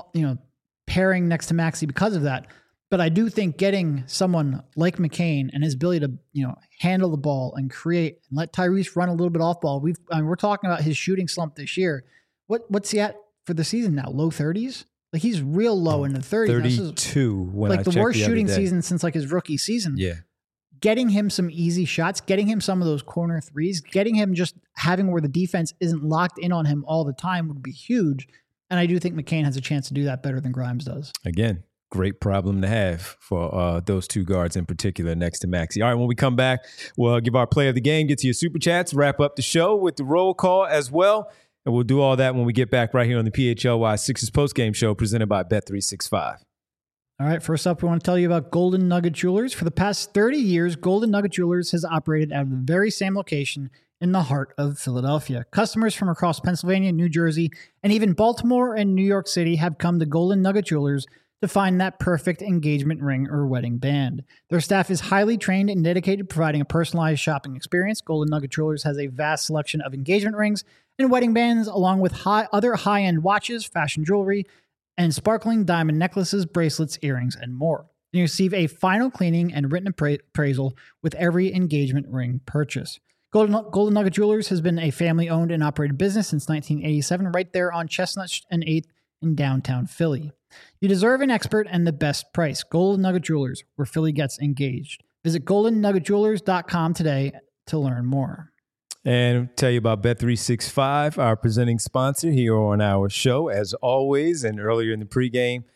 pairing next to Maxey because of that. But I do think getting someone like McCain and his ability to, handle the ball and create and let Tyrese run a little bit off ball. We're talking about his shooting slump this year. What's he at for the season now? Low 30s? Like, he's real low in the 30s. 32 when I like the checked worst the other shooting day. season since like his rookie season. Yeah. Getting him some easy shots, getting him some of those corner threes, getting him just having where the defense isn't locked in on him all the time would be huge. And I do think McCain has a chance to do that better than Grimes does. Again, great problem to have for those two guards in particular next to Maxey. All right, when we come back, we'll give our play of the game, get to your super chats, wrap up the show with the roll call as well. And we'll do all that when we get back right here on the PHLY Sixers postgame show presented by Bet365. All right, first up, we want to tell you about Golden Nugget Jewelers. For the past 30 years, Golden Nugget Jewelers has operated out of the very same location in the heart of Philadelphia. Customers from across Pennsylvania, New Jersey, and even Baltimore and New York City have come to Golden Nugget Jewelers to find that perfect engagement ring or wedding band. Their staff is highly trained and dedicated, providing a personalized shopping experience. Golden Nugget Jewelers has a vast selection of engagement rings and wedding bands, along with other high-end watches, fashion jewelry, and sparkling diamond necklaces, bracelets, earrings, and more. And you receive a final cleaning and written appraisal with every engagement ring purchase. Golden Nugget Jewelers has been a family-owned and operated business since 1987, right there on Chestnut and 8th in downtown Philly. You deserve an expert and the best price. Golden Nugget Jewelers, where Philly gets engaged. Visit goldennuggetjewelers.com today to learn more. And tell you about Bet365, our presenting sponsor here on our show, as always. And earlier in the pregame,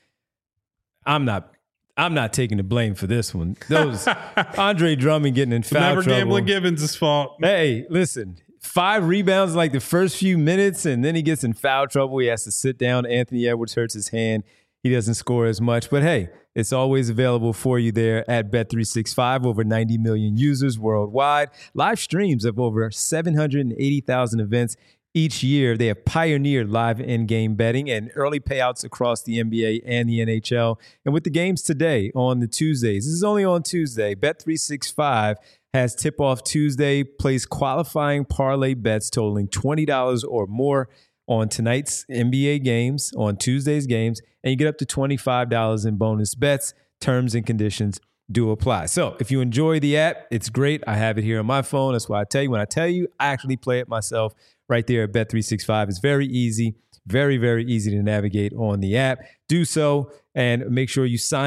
I'm not taking the blame for this one. Those Andre Drummond getting in foul Never trouble. Gambling Gibbons' fault. Hey, listen, 5 rebounds like the first few minutes, and then he gets in foul trouble. He has to sit down. Anthony Edwards hurts his hand. He doesn't score as much. But hey, it's always available for you there at Bet365. Over 90 million users worldwide. Live streams of over 780,000 events each year. They have pioneered live in-game betting and early payouts across the NBA and the NHL. And with the games today on the Tuesdays, this is only on Tuesday, Bet365 has Tip-Off Tuesday, plays qualifying parlay bets totaling $20 or more on tonight's NBA games, on Tuesday's games, and you get up to $25 in bonus bets. Terms and conditions do apply. So if you enjoy the app, it's great. I have it here on my phone. That's why I tell you. When I tell you, I actually play it myself right there at Bet365. It's very easy, very, very easy to navigate on the app. Do so and make sure you sign up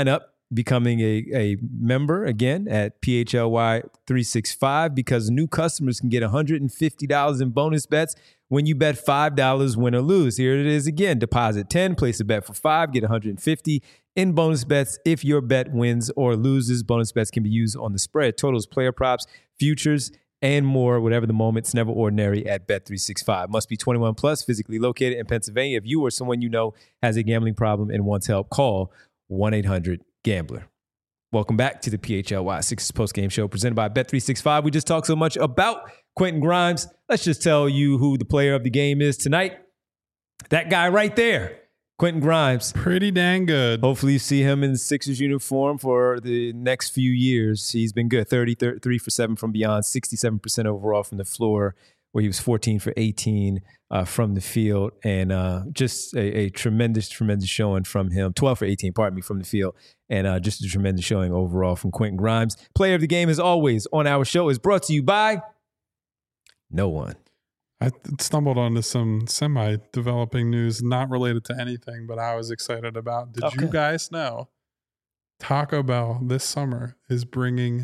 becoming a member again at PHLY 365 because new customers can get $150 in bonus bets when you bet $5 win or lose. Here it is again. Deposit 10, place a bet for 5, get $150 in bonus bets if your bet wins or loses. Bonus bets can be used on the spread, totals, player props, futures, and more, whatever the moment. It's never ordinary at Bet365. Must be 21 plus, physically located in Pennsylvania. If you or someone you know has a gambling problem and wants help, call 1-800-GAMBLER. Welcome back to the PHLY Sixers postgame show presented by Bet365. We just talked so much about Quentin Grimes. Let's just tell you who the player of the game is tonight. That guy right there, Quentin Grimes. Pretty dang good. Hopefully you see him in the Sixers uniform for the next few years. He's been good. 33 for 7 from beyond, 67% overall from the floor, where he was 14 for 18 from the field. And just a tremendous, tremendous showing from him. 12 for 18, pardon me, from the field. And just a tremendous showing overall from Quentin Grimes. Player of the game, as always, on our show is brought to you by no one. I stumbled onto some semi-developing news not related to anything, but I was excited about. Did you guys know Taco Bell this summer is bringing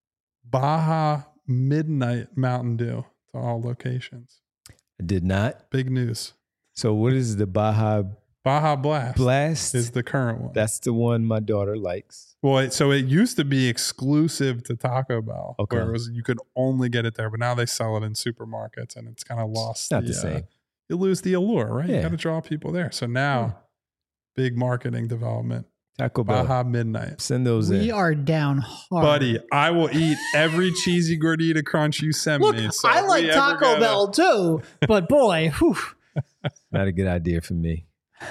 Baja Midnight Mountain Dew to all locations? I did not. Big news. So what is the Baja Blast is the current one. That's the one my daughter likes. Well, so it used to be exclusive to Taco Bell, where it was you could only get it there, but now they sell it in supermarkets, and it's kind of lost. Not the same. You lose the allure, right? Yeah. You got to draw people there. So now, big marketing development. Taco Bell. Baja Midnight. Send those in. We are down hard. Buddy, I will eat every cheesy gordita crunch you send Look, me. So I like Taco Bell too, but boy, whew. Not a good idea for me.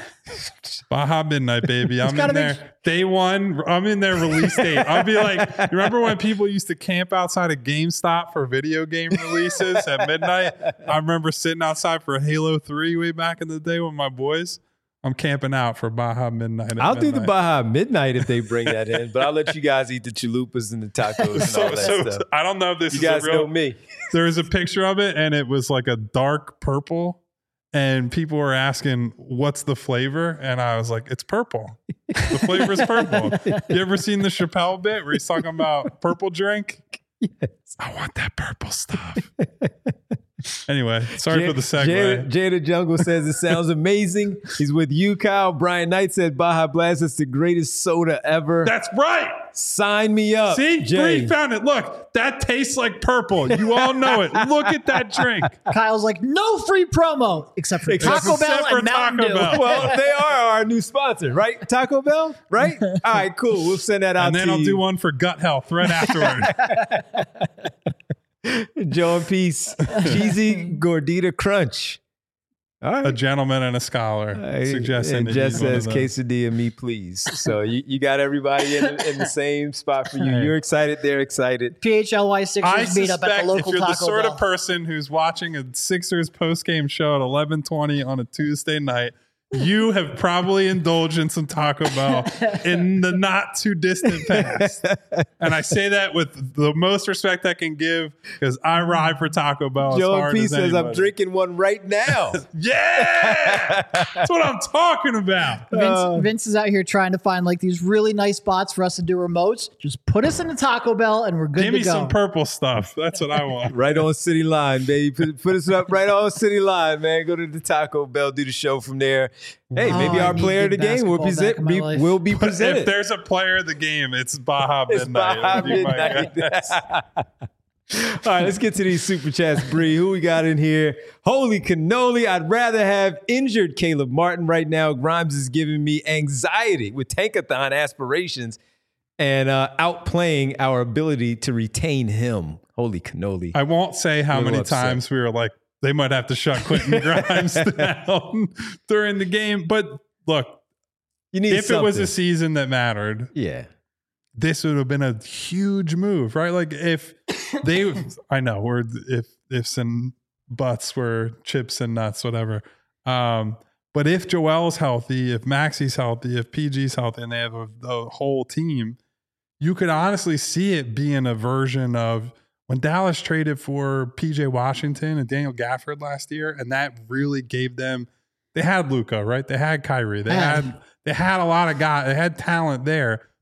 Baja Midnight, baby. I'm in there. Day one, I'm in their release date. I'll be like, you remember when people used to camp outside of GameStop for video game releases at midnight? I remember sitting outside for Halo 3 way back in the day with my boys. I'm camping out for Baja Midnight. I'll do the Baja Midnight if they bring that in, but I'll let you guys eat the chalupas and the tacos and all that stuff. I don't know if this you is guys a real, know me. There was a picture of it, and it was like a dark purple. And people were asking, what's the flavor? And I was like, it's purple. The flavor is purple. You ever seen the Chappelle bit where he's talking about purple drink? Yes. I want that purple stuff. Anyway, sorry for the segue. Jada Jungle says it sounds amazing. He's with you, Kyle. Brian Knight said Baja Blast is the greatest soda ever. That's right. Sign me up. See, Jay. Bree found it. Look, that tastes like purple. You all know it. Look at that drink. Kyle's like, no free promo except for Taco Bell and Mountain Dew. Well, they are our new sponsor, right? Taco Bell, right? All right, cool. We'll send that out to you. And then I'll do one for gut health right afterward. Joe and Peace. Cheesy Gordita Crunch. All right. A gentleman and a scholar suggesting and Jess says quesadilla me please. So you got everybody in the same spot for you. You're excited, they're excited. PHLY Sixers meet up at the local Taco Bell. If you're the sort of person who's watching a Sixers postgame show at 11:20 on a Tuesday night, you have probably indulged in some Taco Bell in the not too distant past. And I say that with the most respect I can give because I ride for Taco Bell. Joe P says I'm drinking one right now. Yeah, that's what I'm talking about. Vince is out here trying to find like these really nice spots for us to do remotes. Just put us in the Taco Bell and we're good to go. Give me some purple stuff. That's what I want. Right on City Line, baby. Put us up right on City Line, man. Go to the Taco Bell, do the show from there. Hey, maybe our player of the game will be presented. If there's a player of the game, it's Baja Midnight. It's Baja Midnight. All right, let's get to these super chats, Bree. Who we got in here? Holy cannoli. I'd rather have injured Caleb Martin right now. Grimes is giving me anxiety with tankathon aspirations and outplaying our ability to retain him. Holy cannoli. I won't say how many times we were like, they might have to shut Quentin Grimes down during the game. But look, if it was a season that mattered, this would have been a huge move, right? Like if they, I know, or if ifs and buts were chips and nuts, whatever. But if Joel's healthy, if Maxi's healthy, if PG's healthy, and they have the whole team, you could honestly see it being a version of when Dallas traded for PJ Washington and Daniel Gafford last year, and that really gave them, they had Luka, right? They had Kyrie. They had a lot of guys. They had talent there,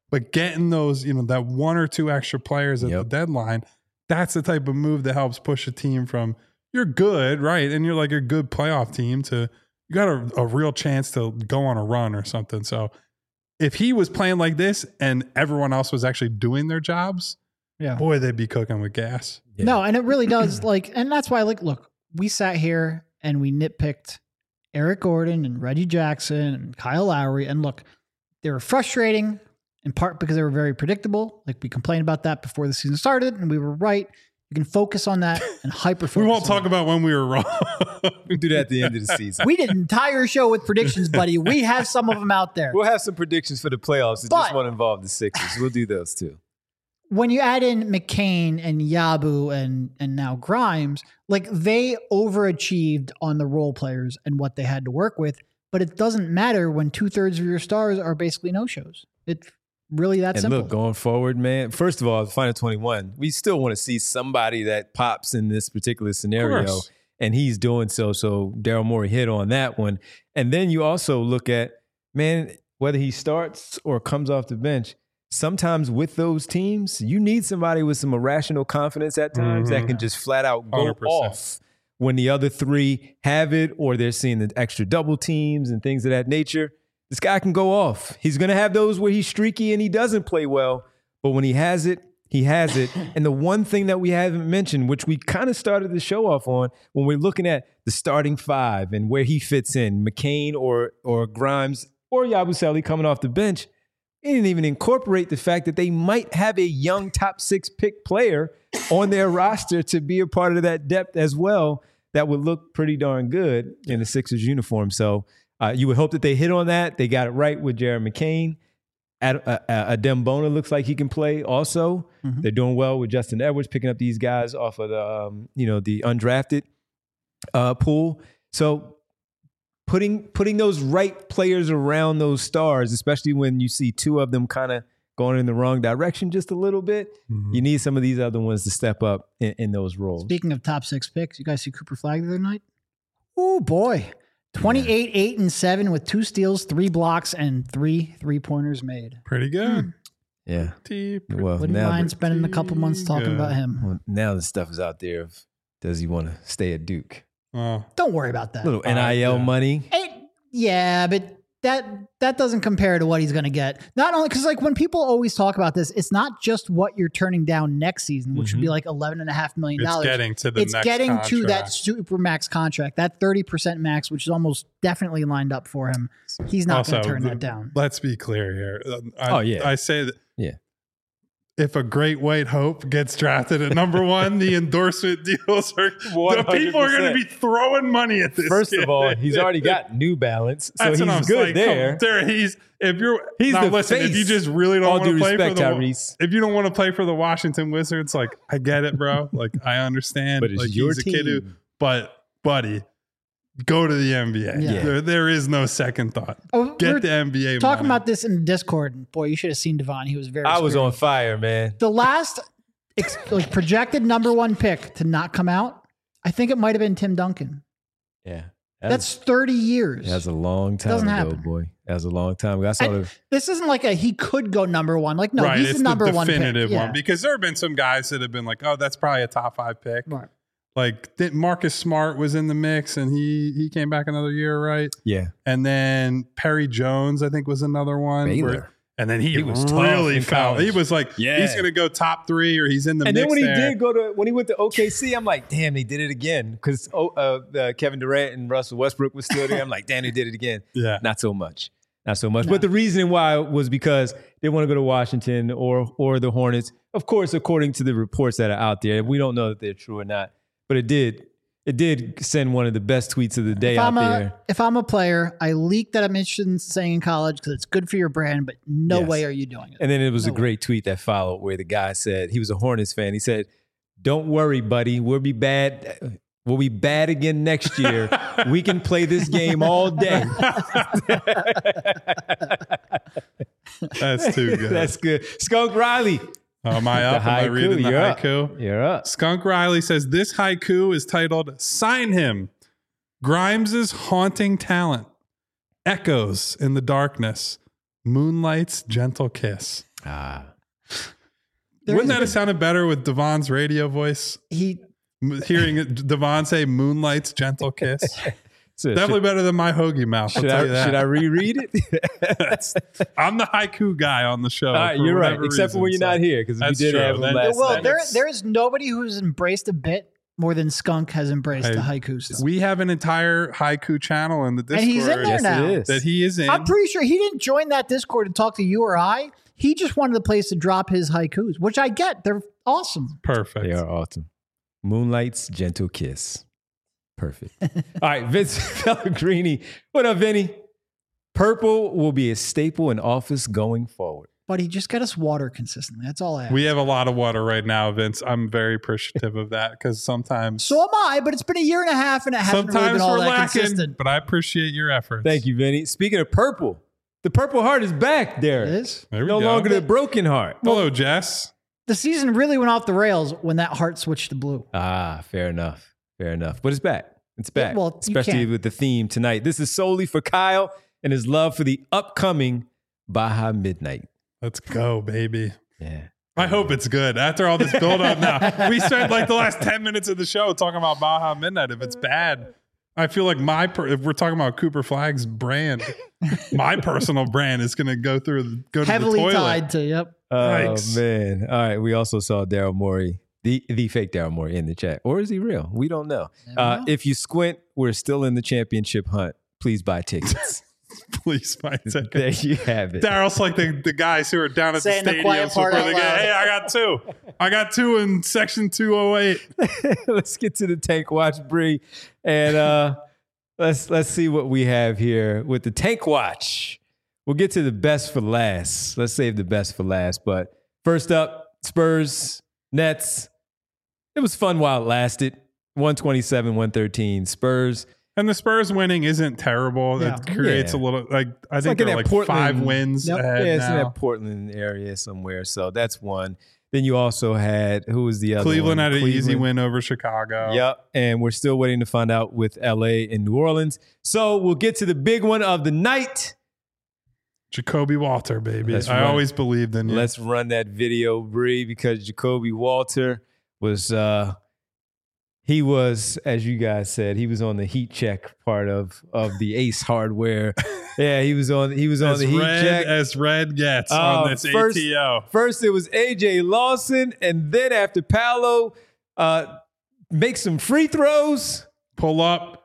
But getting those, that one or two extra players at the deadline, that's the type of move that helps push a team from you're good, right? And you're like a good playoff team to you got a real chance to go on a run or something. So if he was playing like this and everyone else was actually doing their jobs, boy, they'd be cooking with gas. Yeah. No, and it really does. And that's why, look, we sat here and we nitpicked Eric Gordon and Reggie Jackson and Kyle Lowry. And look, they were frustrating in part because they were very predictable. Like we complained about that before the season started, and we were right. You can focus on that and hyper-focus. We won't talk about when we were wrong. We'll do that at the end of the season. We did an entire show with predictions, buddy. We have some of them out there. We'll have some predictions for the playoffs that just won't involve the Sixers. We'll do those too. When you add in McCain and Yabu and now Grimes, they overachieved on the role players and what they had to work with. But it doesn't matter when 2/3 of your stars are basically no-shows. It's really that simple. And look, going forward, man, first of all, the Final 21, we still want to see somebody that pops in this particular scenario. And he's doing so. So Daryl Morey hit on that one. And then you also look at, man, whether he starts or comes off the bench, sometimes with those teams, you need somebody with some irrational confidence at times that can just flat out go 100%. off when the other three have it or they're seeing the extra double teams and things of that nature. This guy can go off. He's going to have those where he's streaky and he doesn't play well. But when he has it, he has it. And the one thing that we haven't mentioned, which we kind of started the show off on, when we're looking at the starting five and where he fits in, McCain or Grimes or Yabusele coming off the bench, he didn't even incorporate the fact that they might have a young top 6 pick player on their roster to be a part of that depth as well that would look pretty darn good in the Sixers uniform. So you would hope that they hit on that. They got it right with Jared McCain. Adem Bona looks like he can play also. Mm-hmm. They're doing well with Justin Edwards, picking up these guys off of the undrafted pool. So putting those right players around those stars, especially when you see two of them kind of going in the wrong direction just a little bit, you need some of these other ones to step up in those roles. Speaking of top 6 picks, you guys see Cooper Flagg the other night? Oh, boy. 28, 8, and 7 with 2 steals, 3 blocks, and 3 3-pointers made. Pretty good. Yeah. Well, wouldn't mind spending a couple months talking about him. Well, now the stuff is out there of does he want to stay at Duke? Don't worry about that. Little NIL money. But that doesn't compare to what he's going to get. Not only because when people always talk about this, it's not just what you're turning down next season, which would be like $11.5 million. It's getting to the next contract. To that super max contract, that 30% max, which is almost definitely lined up for him. He's not going to turn that down. Let's be clear here. I say that. Yeah. If a great white hope gets drafted at number 1, the endorsement deals are 100%. The people are going to be throwing money at this. First kid. of all, he's already got New Balance, so he's good there. He's the face. If you just really don't want to play for Tyrese. If you don't want to play for the Washington Wizards, I get it, bro. I understand. But it's your team. A kid but buddy, go to the NBA. Yeah. There is no second thought. Get the NBA talking money. about this in Discord. And boy, you should have seen Devon. He was very I was on fire, man. The last projected number 1 pick to not come out, I think it might have been Tim Duncan. Yeah. That's 30 years. That's a long time ago, boy. That was a long time ago. This isn't like he could go number 1. He's the number 1 pick. Definitive one. Because there have been some guys that have been like, oh, that's probably a top 5 pick. Right. Marcus Smart was in the mix and he came back another year, right? Yeah. And then Perry Jones, I think, was another one. And then he was really foul. He was like, he's going to go top 3 or he's in the mix. And then when he went to OKC, I'm like, damn, he did it again. Because Kevin Durant and Russell Westbrook was still there. I'm like, damn, he did it again. Yeah. Not so much. No. But the reason why was because they want to go to Washington or the Hornets. Of course, according to the reports that are out there, we don't know that they're true or not. But it did send one of the best tweets of the day out there. If I'm a player, I leak that I'm interested in staying in college because it's good for your brand, but no way are you doing it. And then it was a great tweet that followed where the guy said, he was a Hornets fan. He said, "Don't worry, buddy. We'll be bad. We'll be bad again next year. We can play this game all day." That's too good. That's good. Skunk Riley. Am I up? Am I reading the haiku? You're up. Skunk Riley says, this haiku is titled, Sign Him. Grimes' haunting talent. Echoes in the darkness. Moonlight's gentle kiss. Wouldn't that have sounded better with Devon's radio voice? Hearing Devon say "Moonlight's gentle kiss." So Definitely better than my hoagie mouth. I'll tell you that. Should I reread it? I'm the haiku guy on the show. All right, you're right. Except for when you're not here, because we did have him last Well, night. there is nobody who's embraced a bit more than Skunk has embraced the haiku stuff. We have an entire haiku channel in the Discord. And he's in there now. That he is in. I'm pretty sure he didn't join that Discord to talk to you or I. He just wanted a place to drop his haikus, which I get. They're awesome. Perfect. They are awesome. Moonlight's gentle kiss. Perfect. All right, Vince Pellegrini. What up, Vinny? Purple will be a staple in office going forward. But he just got us water consistently. That's all I ask. We have a lot of water right now, Vince. I'm very appreciative of that because sometimes. So am I, but it's been a year and a half and it hasn't really been all that consistent. But I appreciate your efforts. Thank you, Vinny. Speaking of purple, the Purple Heart is back, Derek. It is? There we no go. longer the broken heart. Hello, Jess. The season really went off the rails when that heart switched to blue. Fair enough. Fair enough. But it's back. It's back. Yeah, well, especially with the theme tonight. This is solely for Kyle and his love for the upcoming Baja Midnight. Let's go, baby. Yeah. I hope it's good. After all this build up now, we spent like the last 10 minutes of the show talking about Baja Midnight. If it's bad, I feel like if we're talking about Cooper Flag's brand, my personal brand is going to go to heavily the toilet. tied to, yep. Oh, Yikes. man. All right. We also saw Daryl Morey, the fake Daryl Morey in the chat. Or is he real? We don't know. If you squint, we're still in the championship hunt. Please buy tickets. Please buy tickets. There you have it. Daryl's like the guys who are down at Saying the the quiet stadiums part before out they loud. hey, I got two. I got two in section 208. Let's get to the Tank Watch, Bree. And let's see what we have here with the Tank Watch. We'll get to the best for last. Let's save the best for last. But first up, Spurs, Nets. It was fun while it lasted. 127-113. Spurs. And the Spurs winning isn't terrible. Yeah. It creates a little I think like they're in like that Portland- 5 wins Yep. ahead Yeah, it's in now. that Portland area somewhere. So that's one. Then you also had, who was the other Cleveland one? had an easy win over Chicago. Yep. And we're still waiting to find out with LA and New Orleans. So we'll get to the big one of the night. Jacoby Walter, baby. Let's I run- always believed in you. Let's run that video, Bree, because Jacoby Walter was he was, as you guys said, he was on the heat check part of the Ace hardware. Yeah, he was on as the heat red check. as red gets on this first- ATO. First it was AJ Lawson, and then after Paolo makes some free throws, Pull up.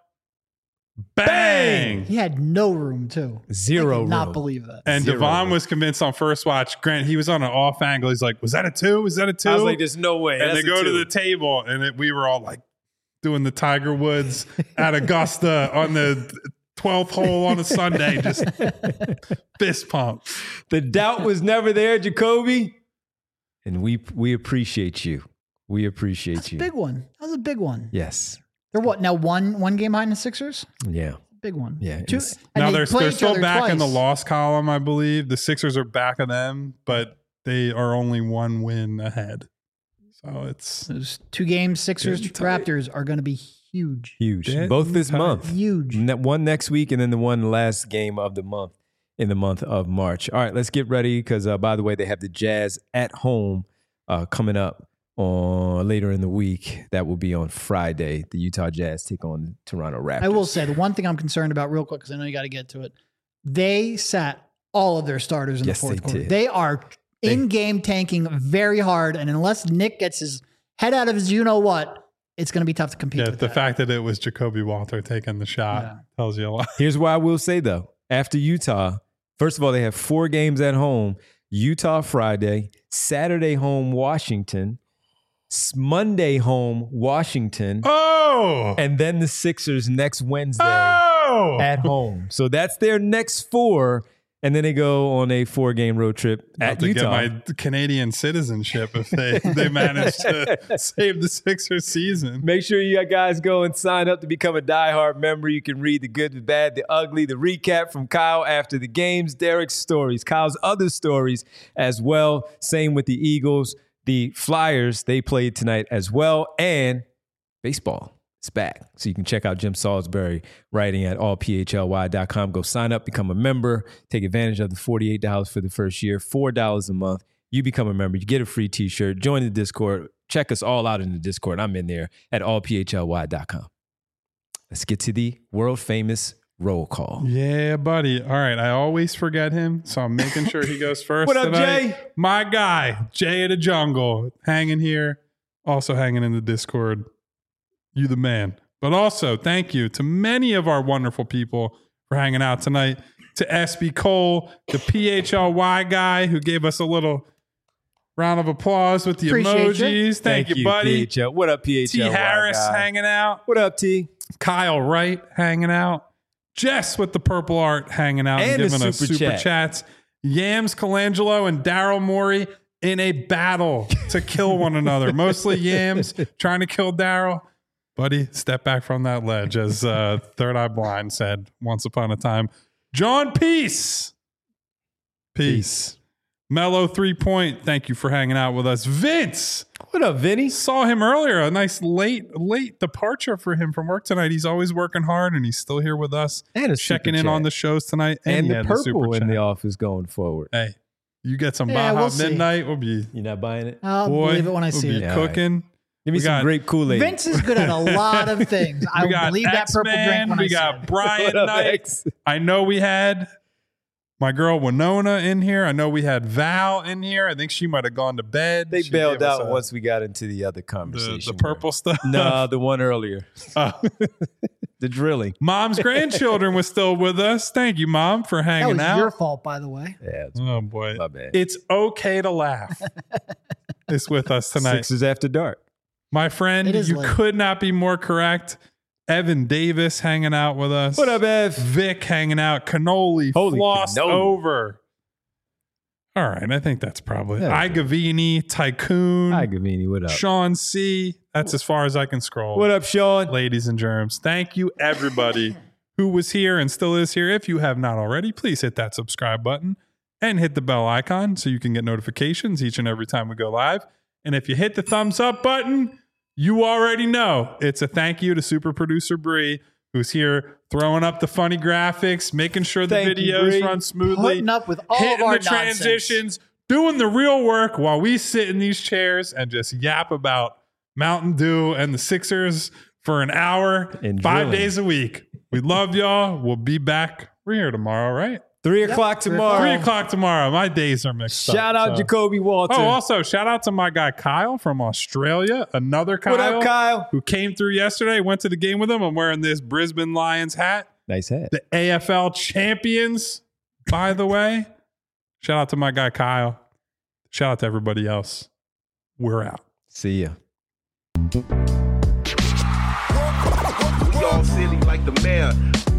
Bang! He had no room, too. zero I room. could not believe that. And Zero Devon room. was convinced on first watch. Grant, he was on an off angle. He's like, was that a 2? Was that a 2? I was like, there's no way. and That's they go a to two. the table, and we were all like doing the Tiger Woods at Augusta on the 12th hole on a Sunday, just fist pump. The doubt was never there, Jacoby. And we appreciate you. We appreciate That's a you. big one. That was a big one. Yes. They're what, now one game behind the Sixers? Yeah. Big one. Yeah, Two, it's- and Now they they're play each still other back in the twice. loss column, I believe. The Sixers are back of them, but they are only 1 win ahead. So it's Those 2 games, Sixers, Getting tight. Raptors, are going to be huge. Huge. Getting Both this tight. month. Huge. One next week, and then the one last game of the month in the month of March. All right, let's get ready because, by the way, they have the Jazz at home coming up on later in the week. That will be on Friday. The Utah Jazz take on the Toronto Raptors. I will say the one thing I'm concerned about real quick, because I know you got to get to it. They sat all of their starters in Yes, the fourth they quarter. did. They are in-game tanking very hard, and unless Nick gets his head out of his you-know-what, it's going to be tough to compete with the that. fact that it was Jacoby Walter taking the shot Yeah. tells you a lot. Here's what I will say, though. After Utah, first of all, they have 4 games at home. Utah Friday, Saturday home Washington, Monday home Washington, Oh! and then the Sixers next Wednesday Oh! at home. So that's their next 4, and then they go on a 4-game road trip About at to Utah. get my Canadian citizenship if they manage to save the Sixers season. Make sure you guys go and sign up to become a diehard member. You can read the good, the bad, the ugly, the recap from Kyle after the games, Derek's stories, Kyle's other stories as well. Same with the Eagles. The Flyers, they played tonight as well. And baseball It's back. So you can check out Jim Salisbury writing at allphly.com. Go sign up, become a member, take advantage of the $48 for the first year, $4 a month. You become a member, you get a free t-shirt, join the Discord, check us all out in the Discord. I'm in there at allphly.com. Let's get to the world famous roll call. Yeah, buddy. All right. I always forget him, so I'm making sure he goes first. What up, tonight. Jay? My guy, Jay of the Jungle, hanging here, also hanging in the Discord. You the man. But also, thank you to many of our wonderful people for hanging out tonight. To SB Cole, the PHLY guy who gave us a little round of applause with the Appreciate emojis. Thank you, buddy. PHL. What up, PHL? T. Harris hanging out. What up, T? Kyle Wright hanging out. Jess with the purple art hanging out and And giving a us super super chat. chats. Yams Colangelo and Daryl Morey in a battle to kill one another. Mostly Yams trying to kill Daryl. Buddy, step back from that ledge, as Third Eye Blind said once upon a time. John Peace. Peace. Mellow 3 Point, thank you for hanging out with us. Vince. What up, Vinny? Saw him earlier. A nice late departure for him from work tonight. He's always working hard, and he's still here with us. And a checking super in chat. on the shows tonight. And yeah, the purple super in chat. the office going forward. Hey, you get some Yeah, Baja we'll see. Midnight. We'll be You not buying it? I'll boy. believe it when I we'll see be it. Yeah, cooking. Give me We some got grape Kool-Aid. Vince is good at a lot of things. I We will got believe that purple X-Men. drink when I We see got it. Brian What up, Knight. X? I know we had my girl Winona in here. I know we had Val in here. I think she might have gone to bed. They She bailed gave us out once we got into the other conversation. the purple stuff. No, the one earlier. Oh. The drilling. Mom's grandchildren was still with us. Thank you, Mom, for That hanging was out. your fault, by the way. Yeah, it's Oh boy, my bad. it's okay to laugh. It's with us tonight. Sixes after dark. My friend, It is you late. could not be more correct. Evan Davis hanging out with us. What up, Ev? Vic hanging out. Cannoli Holy flossed cannoli. over. All right, I think that's probably it. Yeah. Igavini, Tycoon, Hi, Gavini. What up? Sean C. That's as far as I can scroll. What up, Sean? Ladies and germs, thank you everybody who was here and still is here. If you have not already, please hit that subscribe button and hit the bell icon so you can get notifications each and every time we go live. And if you hit the thumbs up button, you already know it's a thank you to super producer Bree, who's here throwing up the funny graphics, making sure the Thank you, videos Bree. run smoothly, Putting up with all hitting of our the transitions, nonsense. doing the real work while we sit in these chairs and just yap about Mountain Dew and the Sixers for an hour, And 5 drilling. days a week. We love y'all. We'll be back. We're here tomorrow, right? 3 o'clock tomorrow. 3 o'clock tomorrow. My days are mixed up. Shout out so. Jacoby Walter. Oh, also, shout out to my guy Kyle from Australia. Another Kyle. What up, Kyle? Who came through yesterday. Went to the game with him. I'm wearing this Brisbane Lions hat. Nice hat. The AFL champions, by the way. Shout out to my guy Kyle. Shout out to everybody else. We're out. See ya. We all silly like the mayor.